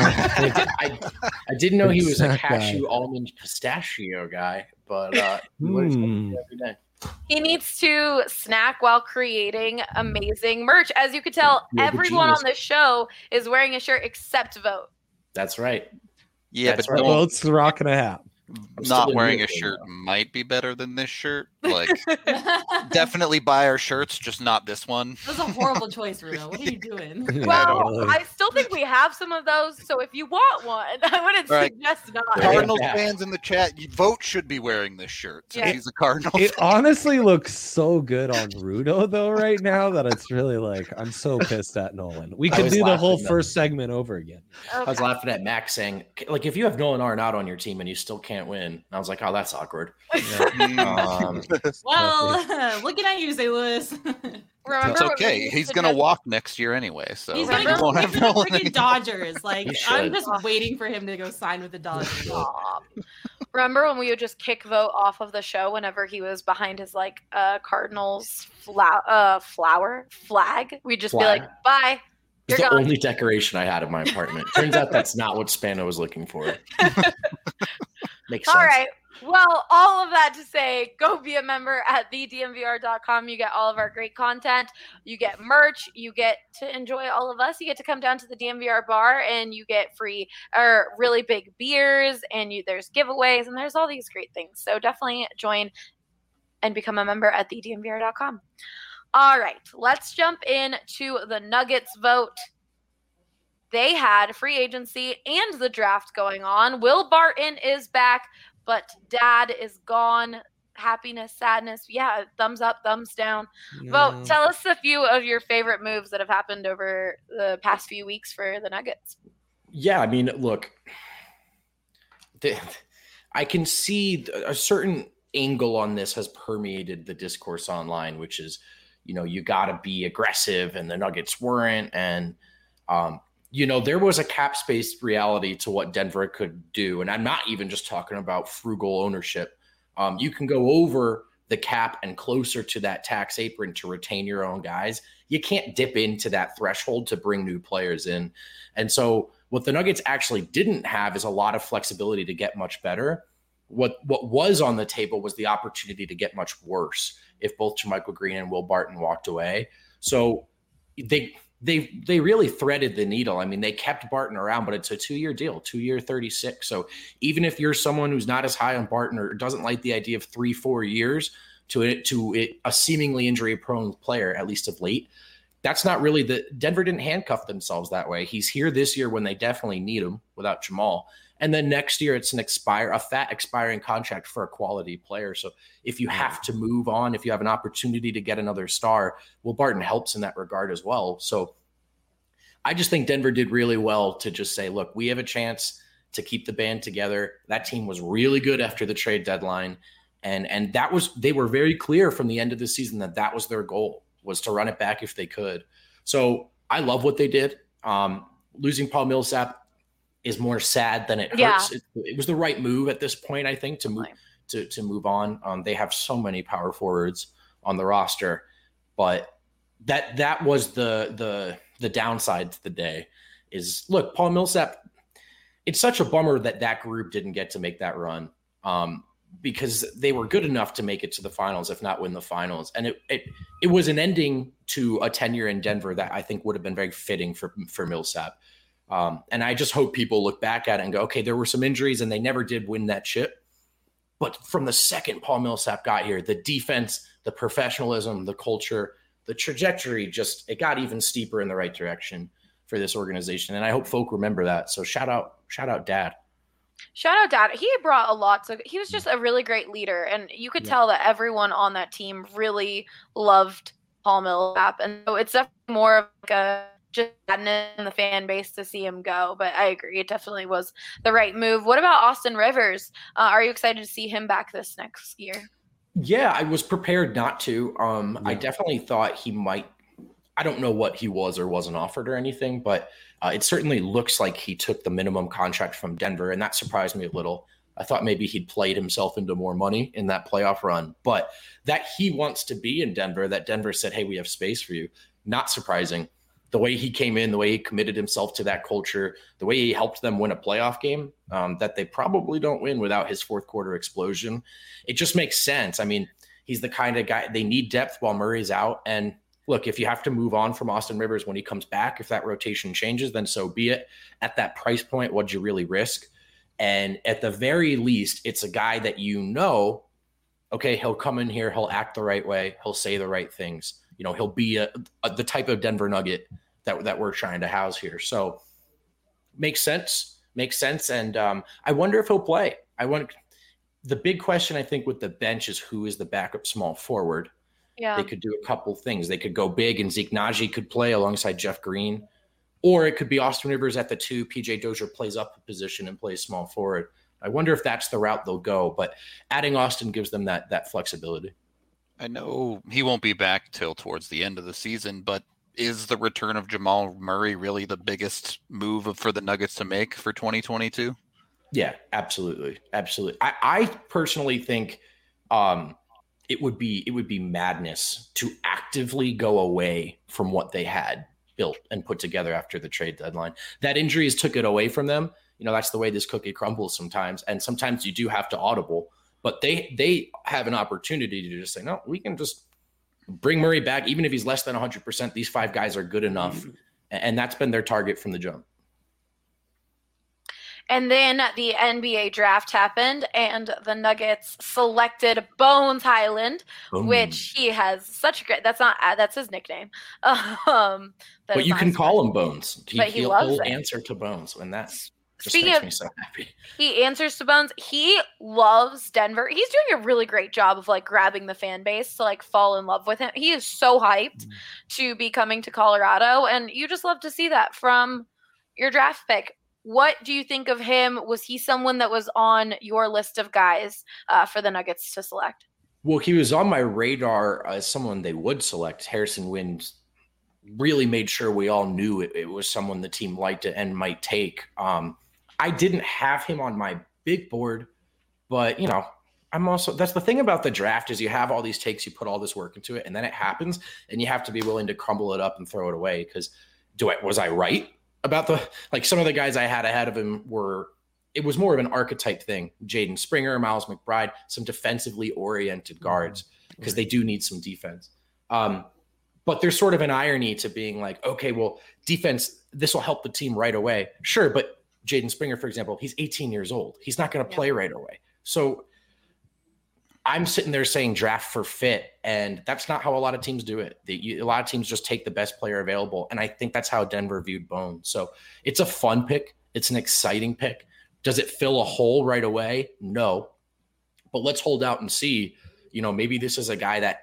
I, I didn't know he was a Snack guy. cashew, almond, pistachio guy, but uh, he wears Hmm. something every day. He needs to snack while creating amazing merch. As you can tell, You're the everyone genius. on this show is wearing a shirt except Vote. That's right. Yeah, That's but right. don't- Boat's rocking a hat. I'm still not in wearing a Europe right shirt now. might be better than this shirt. Like, definitely buy our shirts, just not this one. That was a horrible choice, Rudo. What are you doing? Yeah, Well, totally. I still think we have some of those. So if you want one, I wouldn't All right. suggest not. There you Cardinals Yeah. fans in the chat, you vote should be wearing this shirt since Yeah. he's a Cardinals It fan. honestly looks so good on Rudo though right now that it's really like I'm so pissed at Nolan. We I could was do the whole laughing, though. first segment over again. I was Okay. laughing at Max saying, like, if you have Nolan Arenado on your team and you still can't win, and I was like, oh, that's awkward. Um, Well, looking at you, Saint Louis. Remember It's when we okay. used He's to gonna just- walk next year anyway, so He's he gonna go won't play have for the Nolan freaking anymore. Dodgers. Like He I'm should. just waiting for him to go sign with the Dodgers. Stop. Remember when we would just kick Vote off of the show whenever he was behind his like uh Cardinals fla- uh flower flag? We'd just Flag. be like, bye. It's You're the gone. only decoration I had in my apartment. Turns out that's not what Spano was looking for. Makes sense. All right. Well, all of that to say, go be a member at the D N V R dot com. You get all of our great content. You get merch. You get to enjoy all of us. You get to come down to the D N V R bar and you get free or really big beers, and you there's giveaways, and there's all these great things. So definitely join and become a member at the D N V R dot com. All right, let's jump into the Nuggets vote. They had free agency and the draft going on. Will Barton is back, but Dad is gone. Happiness, sadness. Yeah, thumbs up, thumbs down. Yeah. Vote. Tell us a few of your favorite moves that have happened over the past few weeks for the Nuggets. Yeah, I mean, look, the, I can see a certain angle on this has permeated the discourse online, which is, you know, you got to be aggressive, and the Nuggets weren't. And, um, you know, there was a cap space reality to what Denver could do. And I'm not even just talking about frugal ownership. Um, you can go over the cap and closer to that tax apron to retain your own guys. You can't dip into that threshold to bring new players in. And so what the Nuggets actually didn't have is a lot of flexibility to get much better. What what was on the table was the opportunity to get much worse if both JaMychal Green and Will Barton walked away. So they they they really threaded the needle. I mean, they kept Barton around, but it's a two-year deal, two-year thirty-six. So even if you're someone who's not as high on Barton or doesn't like the idea of three, four years to it to it, a seemingly injury-prone player, at least of late, that's not really the Denver didn't handcuff themselves that way. He's here this year when they definitely need him without Jamal. And then next year it's an expire, a fat expiring contract for a quality player. So if you have to move on, if you have an opportunity to get another star, Will Barton helps in that regard as well. So I just think Denver did really well to just say, look, we have a chance to keep the band together. That team was really good after the trade deadline. And, and that was, they were very clear from the end of the season that that was their goal, was to run it back if they could. So I love what they did. Um, losing Paul Millsap is more sad than it hurts. Yeah. It, it was the right move at this point, I think, to move to, to move on. Um, they have so many power forwards on the roster, but that that was the the the downside to the day. Is look, Paul Millsap. It's such a bummer that that group didn't get to make that run, um, because they were good enough to make it to the finals, if not win the finals. And it it it was an ending to a tenure in Denver that I think would have been very fitting for for Millsap. Um, and I just hope people look back at it and go, okay, there were some injuries and they never did win that chip. But from the second Paul Millsap got here, the defense, the professionalism, the culture, the trajectory, just, it got even steeper in the right direction for this organization. And I hope folk remember that. So shout out, shout out Dad. Shout out Dad. He brought a lot. So he was just a really great leader. And you could Yeah. tell that everyone on that team really loved Paul Millsap. And so it's definitely more of like a just sadness in the fan base to see him go. But I agree, it definitely was the right move. What about Austin Rivers? Uh, are you excited to see him back this next year? Yeah, I was prepared not to. Um, I Yeah. definitely thought he might. I don't know what he was or wasn't offered or anything, but uh, it certainly looks like he took the minimum contract from Denver, and that surprised me a little. I thought maybe he'd played himself into more money in that playoff run, but that he wants to be in Denver, that Denver said, hey, we have space for you, not surprising. The way he came in, the way he committed himself to that culture, the way he helped them win a playoff game um, that they probably don't win without his fourth quarter explosion. It just makes sense. I mean, he's the kind of guy, they need depth while Murray's out. And look, if you have to move on from Austin Rivers when he comes back, if that rotation changes, then so be it. At that price point, what'd you really risk? And at the very least, it's a guy that you know, okay, he'll come in here, he'll act the right way, he'll say the right things. You know, he'll be a, a, the type of Denver Nugget that, that we're trying to house here. So makes sense, makes sense. And um, I wonder if he'll play. I want the big question, I think, with the bench is who is the backup small forward. Yeah. They could do a couple things. They could go big and Zeke Naji could play alongside Jeff Green, or it could be Austin Rivers at the two. P J Dozier plays up a position and plays small forward. I wonder if that's the route they'll go, but adding Austin gives them that that flexibility. I know he won't be back till towards the end of the season, but is the return of Jamal Murray really the biggest move for the Nuggets to make for twenty twenty-two? Yeah, absolutely. Absolutely. I, I personally think um, it would be it would be madness to actively go away from what they had built and put together after the trade deadline. That injuries took it away from them. You know, that's the way this cookie crumbles sometimes. And sometimes you do have to audible, but they they have an opportunity to just say, no, we can just bring Murray back. Even if he's less than one hundred percent, these five guys are good enough. And that's been their target from the jump. And then the N B A draft happened, and the Nuggets selected Bones Highland, Boom. which he has such a great. That's not uh, that's his nickname. Um, that but is you not can his call name. him Bones. He, But he he'll, loves he'll it. answer to Bones, and that's just Speaking makes of- me so happy. He answers to Bones. He loves Denver. He's doing a really great job of like grabbing the fan base to like fall in love with him. He is so hyped Mm. to be coming to Colorado, and you just love to see that from your draft pick. What do you think of him? Was he someone that was on your list of guys uh, for the Nuggets to select? Well, he was on my radar as someone they would select. Harrison Wind really made sure we all knew it, it was someone the team liked it and might take. Um, I didn't have him on my big board, but, you know, I'm also – that's the thing about the draft is you have all these takes, you put all this work into it, and then it happens, and you have to be willing to crumble it up and throw it away because do I was I right about the – like some of the guys I had ahead of him were – it was more of an archetype thing. Jaden Springer, Miles McBride, some defensively oriented guards because they do need some defense. Um, but there's sort of an irony to being like, okay, well, defense, this will help the team right away. Sure, but Jaden Springer, for example, he's eighteen years old. He's not going to play Yeah. right away. So I'm sitting there saying draft for fit, and that's not how a lot of teams do it. They, you, a lot of teams just take the best player available, and I think that's how Denver viewed Bones. So it's a fun pick. It's an exciting pick. Does it fill a hole right away? No. But let's hold out and see. You know, maybe this is a guy that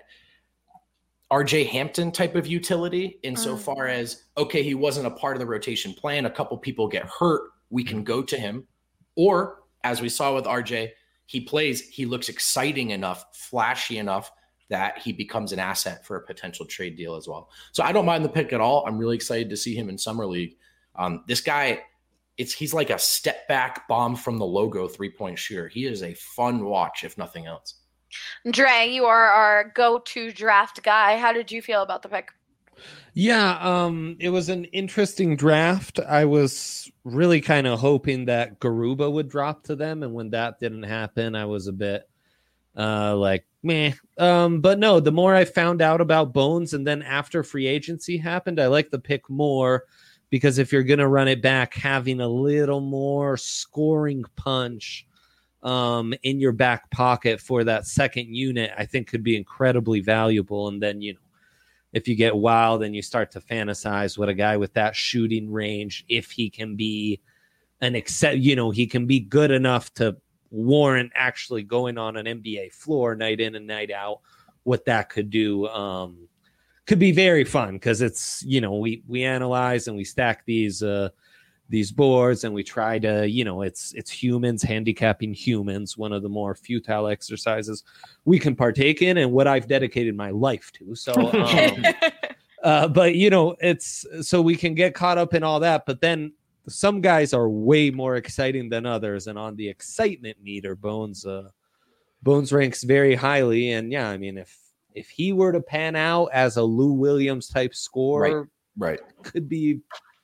R J Hampton type of utility insofar Mm. as, okay, he wasn't a part of the rotation plan. A couple people get hurt. We can go to him. Or as we saw with R J, he plays, he looks exciting enough, flashy enough that he becomes an asset for a potential trade deal as well. So I don't mind the pick at all. I'm really excited to see him in Summer League. Um, this guy, it's he's like a step back bomb from the logo three-point shooter. He is a fun watch, if nothing else. Dre, you are our go-to draft guy. How did you feel about the pick? Yeah, um, it was an interesting draft. I was really kind of hoping that Garuba would drop to them, and when that didn't happen, I was a bit uh, like, meh. Um, but no, the more I found out about Bones, and then after free agency happened, I like the pick more because if you're going to run it back, having a little more scoring punch um, in your back pocket for that second unit, I think could be incredibly valuable. And then, you know, if you get wild and you start to fantasize what a guy with that shooting range, if he can be an accept, you know, he can be good enough to warrant actually going on an N B A floor night in and night out, what that could do um, could be very fun because it's, you know, we, we analyze and we stack these, uh, these boards and we try to, you know, it's, it's humans handicapping humans, one of the more futile exercises we can partake in and what I've dedicated my life to. So, um, uh, but you know, it's so we can get caught up in all that, but then some guys are way more exciting than others. And on the excitement meter, Bones, uh, Bones ranks very highly. And yeah, I mean, if, if he were to pan out as a Lou Williams type scorer, Right. could be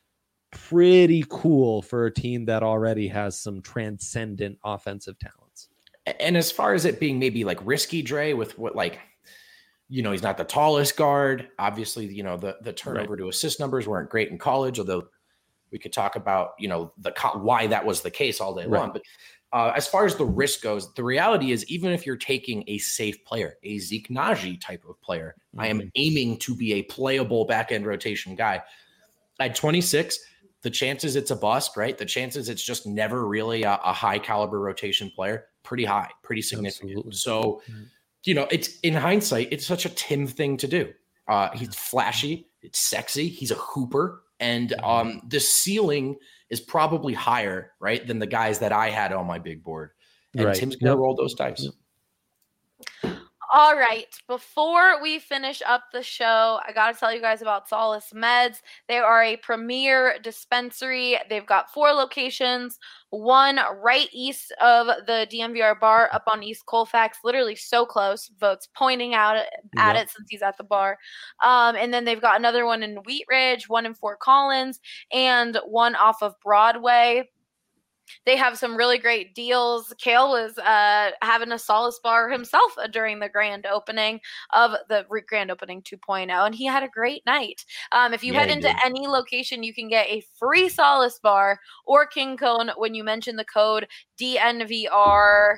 pretty cool for a team that already has some transcendent offensive talents. And as far as it being maybe like risky, Dre, with what, like, you know, he's not the tallest guard. Obviously, you know, the, the turnover to assist numbers weren't great in college, although we could talk about, you know, the why that was the case all day Right. long. But uh, as far as the risk goes, the reality is even if you're taking a safe player, a Zeke Naji type of player, mm-hmm. I am aiming to be a playable back-end rotation guy. At twenty-six, the chances it's a bust, right? The chances it's just never really a, a high caliber rotation player, pretty high, pretty significant. Absolutely. So, you know, it's in hindsight, it's such a Tim thing to do. Uh, he's flashy, it's sexy, he's a hooper, and um, the ceiling is probably higher, right, than the guys that I had on my big board. And Right. Tim's going to Yep. roll those dice. All right. Before we finish up the show, I got to tell you guys about Solace Meds. They are a premier dispensary. They've got four locations, one right east of the D M V R bar up on East Colfax, literally so close. Vote's pointing out at yep. it since he's at the bar. Um, and then they've got another one in Wheat Ridge, one in Fort Collins, and one off of Broadway. They have some really great deals. Kale was uh, having a Solace bar himself during the grand opening of the grand opening two point oh, and he had a great night. Um, if you Yeah, head he into did. any location, you can get a free Solace bar or King Cone when you mention the code D N V R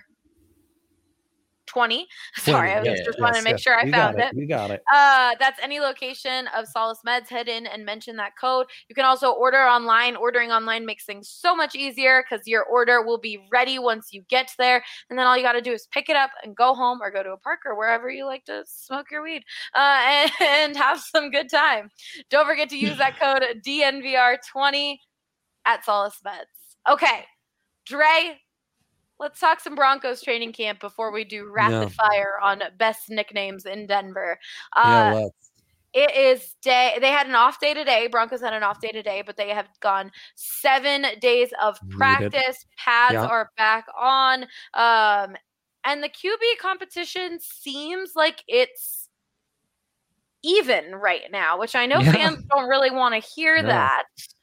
twenty. Sorry, I was yeah, just yes, wanted to make yes. sure I You found got it. it. You got it. Uh, that's any location of Solace Meds. Head in and mention that code. You can also order online. Ordering online makes things so much easier because your order will be ready once you get there. And then all you got to do is pick it up and go home or go to a park or wherever you like to smoke your weed uh, and, and have some good time. Don't forget to use that code D N V R twenty at Solace Meds. Okay, Dre, let's talk some Broncos training camp before we do rapid Yeah. fire on best nicknames in Denver. Yeah, Uh, let's. it is day. They had an off day today. Broncos had an off day today, but they have gone seven days of Needed. practice. Pads Yeah. are back on. Um, and the Q B competition seems like it's even right now, which I know Yeah. fans don't really want to hear No. that.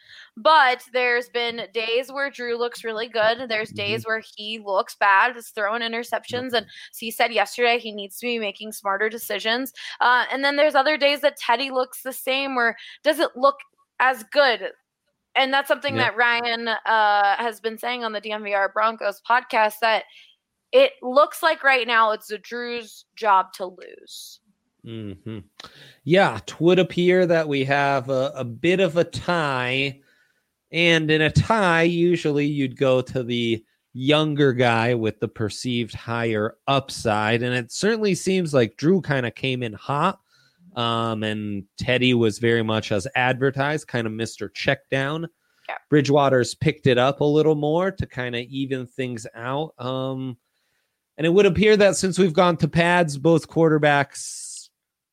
But there's been days where Drew looks really good. There's Mm-hmm. days where he looks bad, is throwing interceptions. And so he said yesterday he needs to be making smarter decisions. Uh, and then there's other days that Teddy looks the same or doesn't look as good. And that's something Yeah. that Ryan uh, has been saying on the D M V R Broncos podcast, that it looks like right now it's the Drew's job to lose. Mm-hmm. Yeah, it would appear that we have a, a bit of a tie. And in a tie, usually you'd go to the younger guy with the perceived higher upside. And it certainly seems like Drew kind of came in hot. Um, and Teddy was very much as advertised, kind of Mister Checkdown. Yeah. Bridgewater's picked it up a little more to kind of even things out. Um, and it would appear that since we've gone to pads, both quarterbacks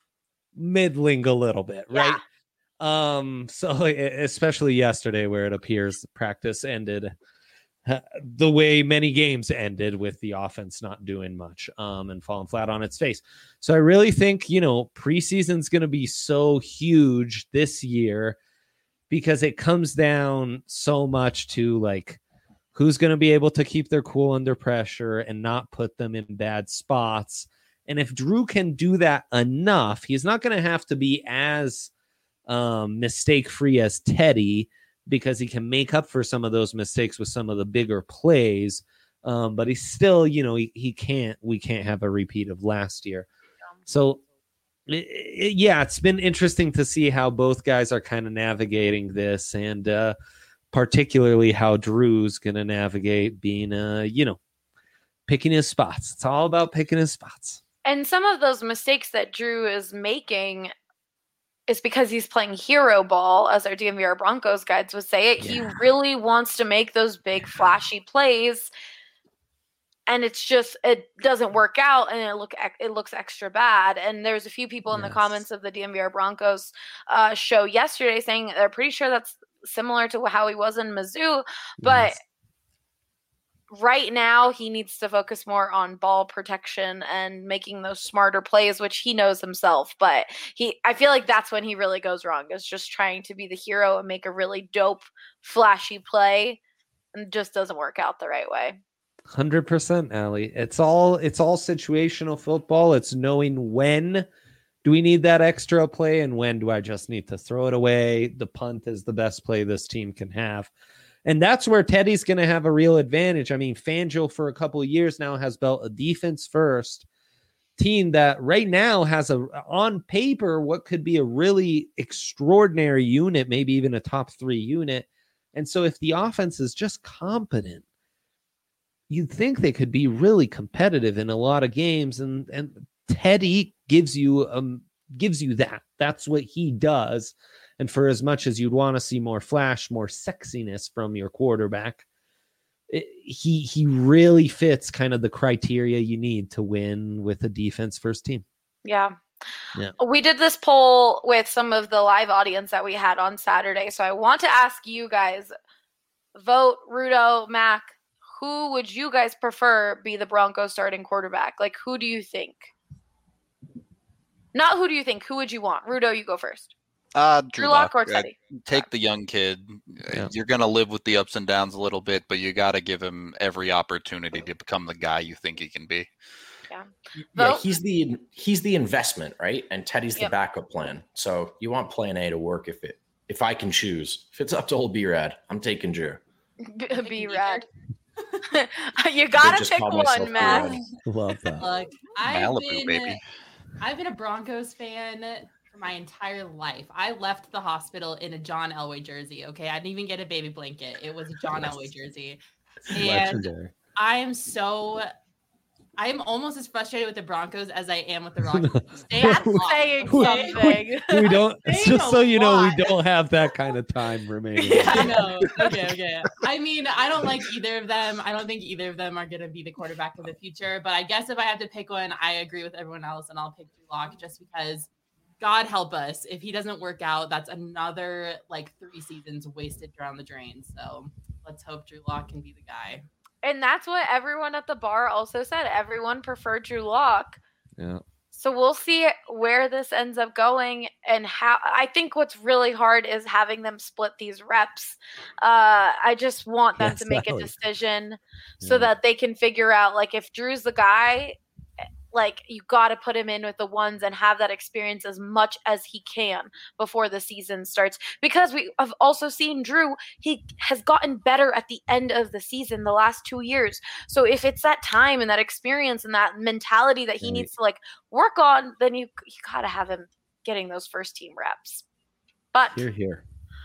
middling a little bit, right? Yeah. Um, so especially yesterday where it appears the practice ended uh, the way many games ended, with the offense not doing much um, and falling flat on its face. So I really think, you know, preseason's going to be so huge this year because it comes down so much to like who's going to be able to keep their cool under pressure and not put them in bad spots. And if Drew can do that enough, he's not going to have to be as um, mistake-free as Teddy, because he can make up for some of those mistakes with some of the bigger plays. Um, but he's still, you know, he, he can't, we can't have a repeat of last year. So it, it, yeah, it's been interesting to see how both guys are kind of navigating this, and uh, particularly how Drew's going to navigate being, uh, you know, picking his spots. It's all about picking his spots. And some of those mistakes that Drew is making is because he's playing hero ball, as our D M V R Broncos guides would say it. Yeah. He really wants to make those big flashy plays, and it's just, it doesn't work out, and it look it looks extra bad. And there's a few people in Yes. the comments of the D M V R Broncos uh, show yesterday saying they're pretty sure that's similar to how he was in Mizzou, but Yes. right now he needs to focus more on ball protection and making those smarter plays, which he knows himself. But he, I feel like that's when he really goes wrong, is just trying to be the hero and make a really dope, flashy play, and it just doesn't work out the right way. one hundred percent, Allie. It's all it's all situational football. It's knowing when do we need that extra play and when do I just need to throw it away. The punt is the best play this team can have. And that's where Teddy's going to have a real advantage. I mean, Fangio for a couple of years now has built a defense first team that right now has a on paper what could be a really extraordinary unit, maybe even a top three unit. And so if the offense is just competent, you'd think they could be really competitive in a lot of games. And and Teddy gives you um gives you that. That's what he does. And for as much as you'd want to see more flash, more sexiness from your quarterback, it, he he really fits kind of the criteria you need to win with a defense first team. Yeah. Yeah. We did this poll with some of the live audience that we had on Saturday. So I want to ask you guys, vote Rudo, Mac, who would you guys prefer be the Broncos starting quarterback? Like, who do you think? Not who do you think, who would you want? Rudo, you go first. Uh, Drew, Drew Lock or Uh, Teddy? take the young kid. Yeah. You're going to live with the ups and downs a little bit, but you got to give him every opportunity to become the guy you think he can be. Yeah. Yeah, Vote? he's the he's the investment, right? And Teddy's the Yep. backup plan. So you want plan A to work if it if I can choose. If it's up to old B-Rad, I'm taking Drew. B- be rad. You gotta just pick call myself one, Mac. B-Rad. Love that. Look, I've Malibu, been, baby. I've been a Broncos fan for my entire life. I left the hospital in a John Elway jersey. Okay, I didn't even get a baby blanket. It was a John Elway jersey, and Legendary. I am so. I am almost as frustrated with the Broncos as I am with the Rockies. Stay That's at home, saying okay? something. We don't. Saying Just a so you know, lot. we don't have that kind of time remaining. I know. Okay, okay. I mean, I don't like either of them. I don't think either of them are going to be the quarterback of the future. But I guess if I have to pick one, I agree with everyone else, and I'll pick Drew Lock just because, God help us, if he doesn't work out, that's another like three seasons wasted down the drain. So let's hope Drew Lock can be the guy. And that's what everyone at the bar also said. Everyone preferred Drew Lock. Yeah. So we'll see where this ends up going and how. I think what's really hard is having them split these reps. Uh, I just want them Yes, to make that a would- decision so Yeah. that they can figure out, like, if Drew's the guy, like, you got to put him in with the ones and have that experience as much as he can before the season starts. Because we have also seen Drew, he has gotten better at the end of the season the last two years. So if it's that time and that experience and that mentality that he Right. needs to, like, work on, then you, you got to have him getting those first team reps. But Here, here.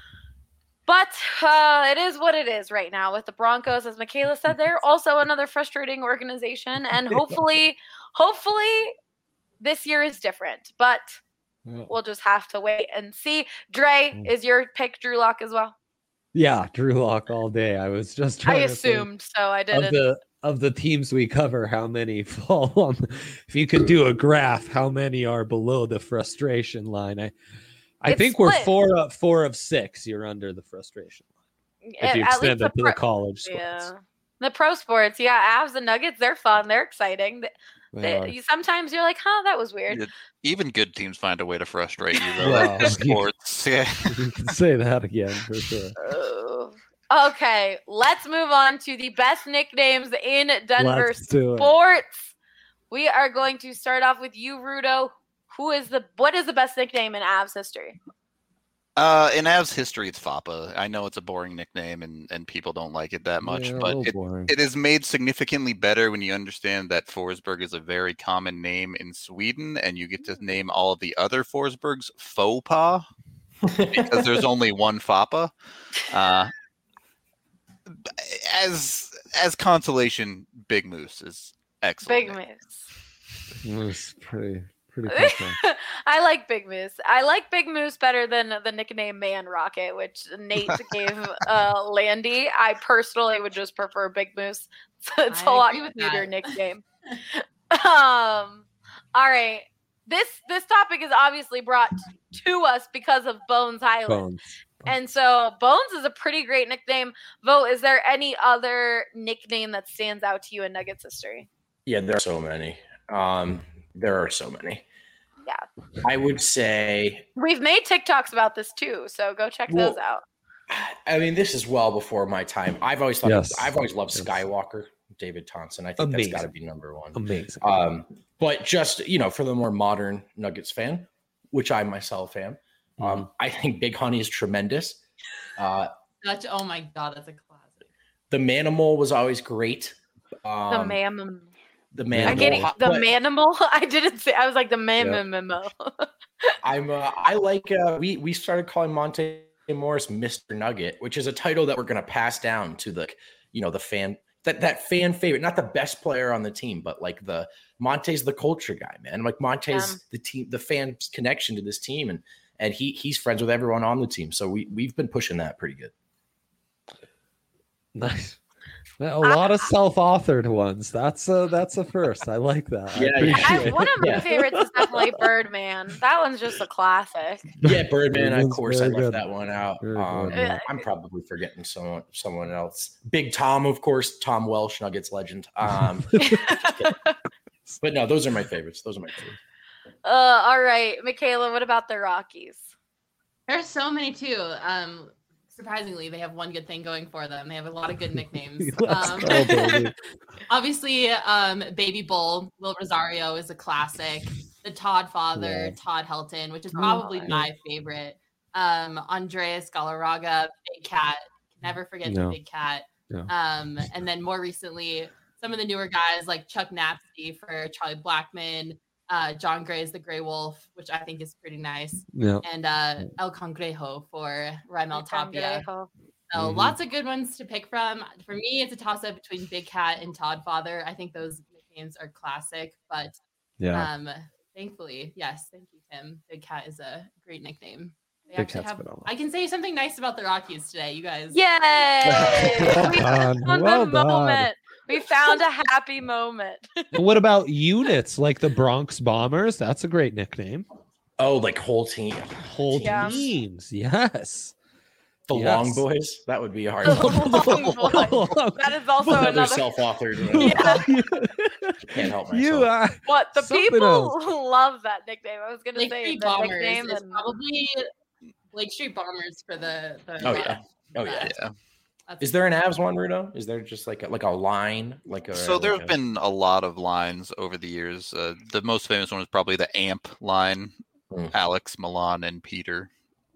but uh, it is what it is right now with the Broncos. As Michaela said, they're also another frustrating organization. And hopefully, hopefully this year is different. But Yeah. we'll just have to wait and see. Dre, is your pick Drew Lock as well? Yeah, Drew Lock all day. I was just trying I to think assumed, so I of didn't. the of the teams we cover, how many fall on. If you could do a graph, how many are below the frustration line? I I It's think we're split. four of four of six. You're under the frustration line if At- you at least extend it to pro- the college sports. Yeah. The pro sports, yeah, Avs and Nuggets, they're fun. They're exciting. They, They they- are. you, sometimes you're like, huh, that was weird. Yeah, Even good teams find a way to frustrate you, though. Well, That's just you- sports. Yeah. You can say that again for sure. Oh. Okay, let's move on to the best nicknames in Denver Let's do it. sports. We are going to start off with you, Rudo. Who is the what is the best nickname in Avs history? Uh, in Avs history, it's Fappa. I know it's a boring nickname, and, and people don't like it that much, Yeah, a but little it, boring. it is made significantly better when you understand that Forsberg is a very common name in Sweden, and you get to name all of the other Forsbergs faux pas because there's only one Fappa. Uh, as as consolation, Big Moose is excellent. Big Moose. It was pretty pretty cool. I like Big Moose. I like Big Moose better than the nickname Man Rocket, which Nate gave uh, Landy. I personally would just prefer Big Moose. It's a I lot agree with cuter that. nickname. um, all right. This this topic is obviously brought to us because of Bones Highland. Bones. And so Bones is a pretty great nickname. Vote, is there any other nickname that stands out to you in Nuggets history? Yeah, there are so many. Um, there are so many. Yeah. I would say, We've made TikToks about this too, so go check Well, those out. I mean, this is well before my time. I've always thought, Yes. I've always loved Yes. David David Thompson. I think Amazing. that's got to be number one. Amazing. Um, but just, you know, for the more modern Nuggets fan, which I myself am, Mm-hmm. um, I think Big Honey is tremendous. Uh, Such, oh my God, that's a classic. the Manimal was always great. Um, The man. The I'm Manimal. getting the But manimal. I didn't say. I was like the man. Memo. I'm. Uh, I like. Uh, we we started calling Monte Morris Mister Nugget, which is a title that we're going to pass down to the, you know, the fan that that fan favorite, not the best player on the team, but like the Monte's the culture guy, man. Like Monte's Um, the team, the fans' connection to this team, and and he he's friends with everyone on the team. So we we've been pushing that pretty good. Nice. A lot of self-authored ones. That's a that's a first. I like that. Yeah, I yeah. appreciate I, it. one of my Yeah. favorites is definitely Birdman. That one's just a classic. Yeah, Birdman. Of Birdman's course, I very left good. that one out. Very Um, good, yeah. I'm probably forgetting someone someone else. Big Tom, of course. Tom Welsh, Nuggets legend. Um, but no, those are my favorites. Those are my favorites. Uh, all right, Michaela, what about the Rockies? There's so many too. Um, surprisingly, they have one good thing going for them. They have a lot of good nicknames. Let's Um, go, baby. obviously, um, Baby Bull, Will Rosario is a classic. The Todd father, Yeah. Todd Helton, which is probably Oh, my favorite. Um, Andreas Galarraga, Big Cat. Never forget No. the Big Cat. No. Um, and then more recently, some of the newer guys like Chuck Napsty for Charlie Blackmon, uh, John Gray's The Gray Wolf, which I think is pretty nice, Yeah. and uh, El Cangrejo for Raimel Tapia. Cangrejo. So Mhm. lots of good ones to pick from. For me, it's a toss-up between Big Cat and Todd Father. I think those nicknames are classic, but Yeah. um, thankfully, yes, thank you, Tim. Big Cat is a great nickname. They Big actually Cat's have. phenomenal. I can say something nice about the Rockies today, you guys. Yay! Well we done, found well a done. moment. We found a happy moment. What about units like the Bronx Bombers? That's a great nickname. Oh, like whole team. Whole Yeah. teams. Yes. The Yes. Long Boys. That would be a hard The one. Long Boys. That is also Another another. self-authored. Yeah. Can't help myself. You uh, What the Something people else. love that nickname. I was gonna Lake say Street the Bombers nickname is and probably Lake Street Bombers for the. the Oh yeah. Oh yeah. Yeah. That's- Is there an Avs one, Rudo? Is there just like a, like a line, like a? So there like have a- been a lot of lines over the years. Uh, the most famous one is probably the AMP line. Hmm. Alex, Milan, and Peter.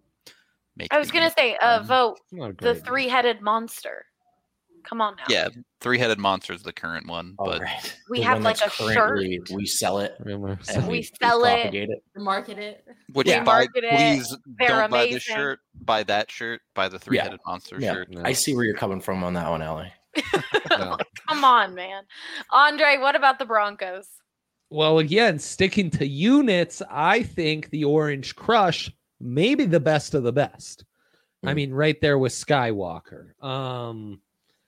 Make I was the gonna AMP say, uh, line. vote not a the great name. three-headed monster. Come on now. Yeah, three-headed monster is the current one, Oh, but right. We The have one like that's a currently- shirt. We sell it. Remember? And We sell it. propagate it. market it. which Yeah. buy, market it. please They're don't buy amazing. this shirt. Buy that shirt. Buy the three-headed monster Yeah. shirt. No. I see where you're coming from on that one, Ellie. No. Come on, man. Andre, what about the Broncos? Well, again, sticking to units, I think the Orange Crush may be the best of the best. I Mm. mean, right there with Skywalker. Um,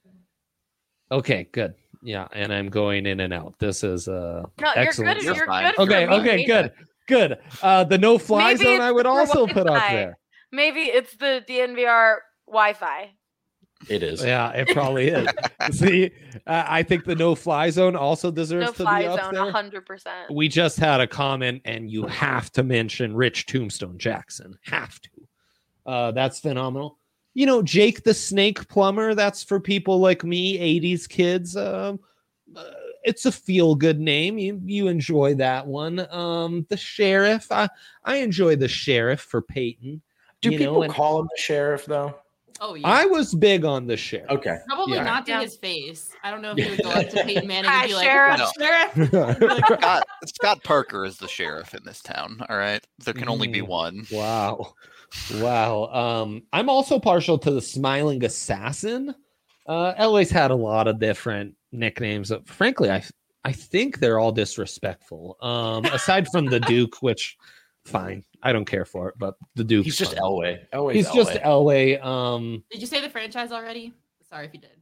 okay, good. Yeah, and I'm going in and out. This is uh No, excellent. you're You're good. You're fine. good. for Okay, me. okay, good, good. Uh, the no fly Maybe zone it's I would the also put up Wi-Fi. there. Maybe it's the D N V R Wi-Fi. It is. Yeah, it probably is. See, uh, I think the no fly zone also deserves No to fly be up zone, there. hundred percent. We just had a comment, and you have to mention Rich Tombstone Jackson. Have to. Uh, that's phenomenal. You know, Jake the Snake Plumber. That's for people like me, eighties kids. Um, uh, it's a feel good name. You you enjoy that one. Um, the Sheriff. I I enjoy the Sheriff for Peyton. Do you people know, and call him the sheriff though? Oh yeah. I was big on the Sheriff. Okay. Probably Yeah. not to Yeah. his face. I don't know if he would go up to Peyton Manning Hi, and be like, Sheriff. "What's up, Sheriff?" Scott, Scott Parker is the sheriff in this town. All right, there can only be Mm. one. Wow. Wow. Um, I'm also partial to the Smiling Assassin. Uh, L A's had a lot of different nicknames. Uh, Frankly, I I think they're all disrespectful. Um, aside from the Duke, which fine, I don't care for it, but the Duke. He's just Elway. Elway's He's just Elway. Elway. Um, Did you say the franchise already? Sorry if you did.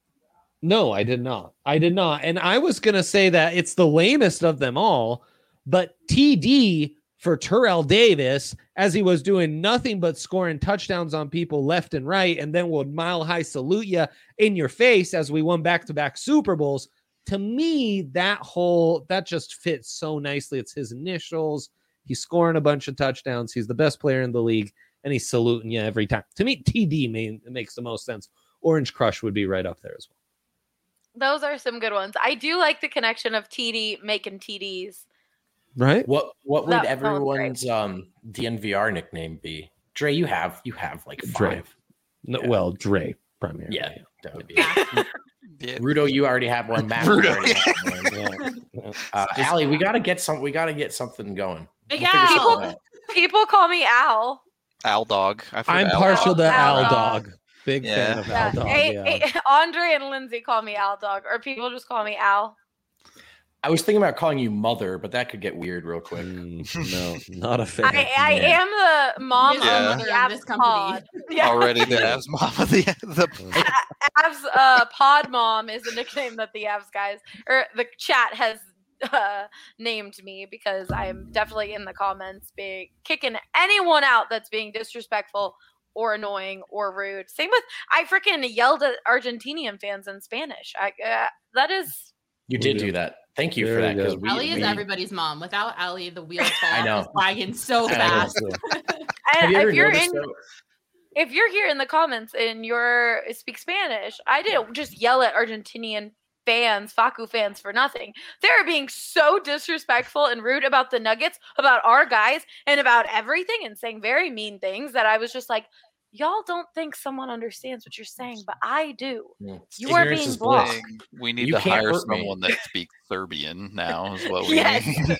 No, I did not. I did not. And I was going to say that it's the lamest of them all, but T D for Terrell Davis, as he was doing nothing but scoring touchdowns on people left and right, and then would mile high salute you in your face as we won back to back Super Bowls. To me, that whole, that just fits so nicely. It's his initials. He's scoring a bunch of touchdowns. He's the best player in the league, and he's saluting you every time. To me, T D may, makes the most sense. Orange Crush would be right up there as well. Those are some good ones. I do like the connection of T D making T Ds. Right? What what would That sounds great. everyone's um D N V R nickname be? Dre, you have you have like Dre. five. No, Yeah. Well, Dre primarily. Yeah, that would be. Yeah. Rudo, you already have one. Matt, Rudo, you already yeah. have one. Yeah. Yeah. Uh, Allie, we gotta get some. We gotta get something going. Big We'll figure Al. something out. People call me Al. Al Dog. I've heard I'm Al partial Dog. to Al Al Dog. Dog. Big Yeah. fan of Yeah. Al Dog. Hey, Yeah. hey, Andre and Lindsay call me Al Dog, or people just call me Al. I was thinking about calling you mother, but that could get weird real quick. Mm, no, not a fan. I, I Yeah. am the mom Yeah. of the Of this Avs company. pod. Yeah. Already the Avs mom of the the Avs uh, pod mom is the nickname that the Avs guys or the chat has uh, named me because I'm definitely in the comments being kicking anyone out that's being disrespectful or annoying or rude. Same with I freaking yelled at Argentinian fans in Spanish. I uh, that is You did do that. Thank you for Very that. 'cause good. we- Ellie is we- everybody's mom. Without Ellie, the wheels fall I off know. this wagon so I know. fast. Have and you ever if you're noticed in though- if you're here in the comments and you're speak Spanish, I didn't just yell at Argentinian fans, Facu fans for nothing. They're being so disrespectful and rude about the Nuggets, about our guys, and about everything and saying very mean things that I was just like, y'all don't think someone understands what you're saying, but I do. Yeah. You are Ignorance being is bliss. blocked. we need You to can't hire hurt me. someone that speaks Serbian now is what we Yes. need.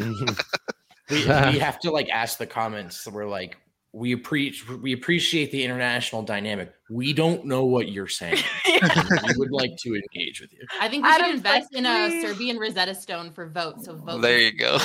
We, we have to like ask the comments. We're like, we appreciate we appreciate the international dynamic. We don't know what you're saying. We would like to engage with you. I think we Adam's should invest like, in a please. Serbian Rosetta Stone for vote. So vote. There you go.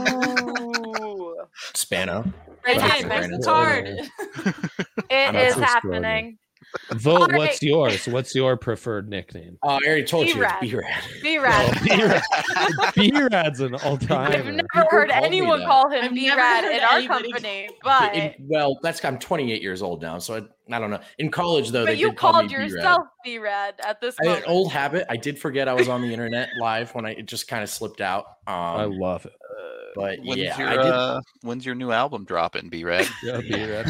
Ooh. Spano. Right Brandon. hand, Brandon. the card. It I'm is not so happening. Vote. All right. What's yours? What's your preferred nickname? Uh, I already told you. B-Rad. It's B-Rad. Be rad. B-Rad's an I've all-timer. never People heard call me anyone that. call him I've B never rad heard in our anybody- company, but In- well, that's I'm twenty-eight years old now, so I, I don't know. In college, though, but they you did call called me B-Rad. yourself B rad at this I had moment. an old habit. I did forget I was on the internet live when I it just kind of slipped out. Um, I love it. but When's yeah, your I did. uh, when's your new album dropping, B-Rad? Yeah, B-Rad.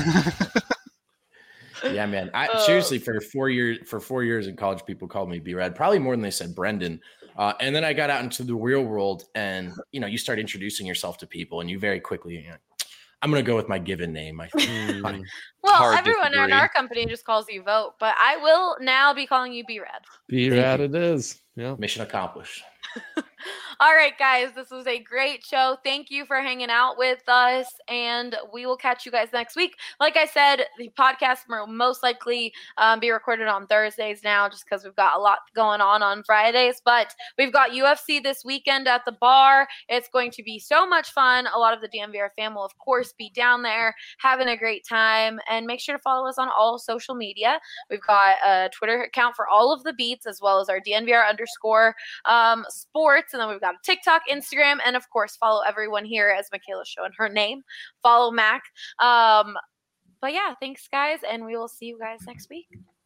Yeah, man. I Uh, seriously for four years for four years in college, people called me B-Rad, probably more than they said Brendan. Uh, and then I got out into the real world, and you know, you start introducing yourself to people, and you very quickly, you know, I'm gonna go with my given name. I think. Mm, well, hard everyone in disagree. our company just calls you Vote, but I will now be calling you B rad. B-Rad it is. Yeah. Mission accomplished. All right, guys, this was a great show. Thank you for hanging out with us, and we will catch you guys next week. Like I said, the podcast will most likely um, be recorded on Thursdays now just because we've got a lot going on on Fridays, but we've got U F C this weekend at the bar. It's going to be so much fun. A lot of the D N V R fam will, of course, be down there having a great time, and make sure to follow us on all social media. We've got a Twitter account for all of the beats, as well as our D N V R underscore um, sports, and then we've got a TikTok, Instagram, and of course, follow everyone here as Michaela's showing her name. Follow Mac. Um, but yeah, thanks, guys, and we will see you guys next week.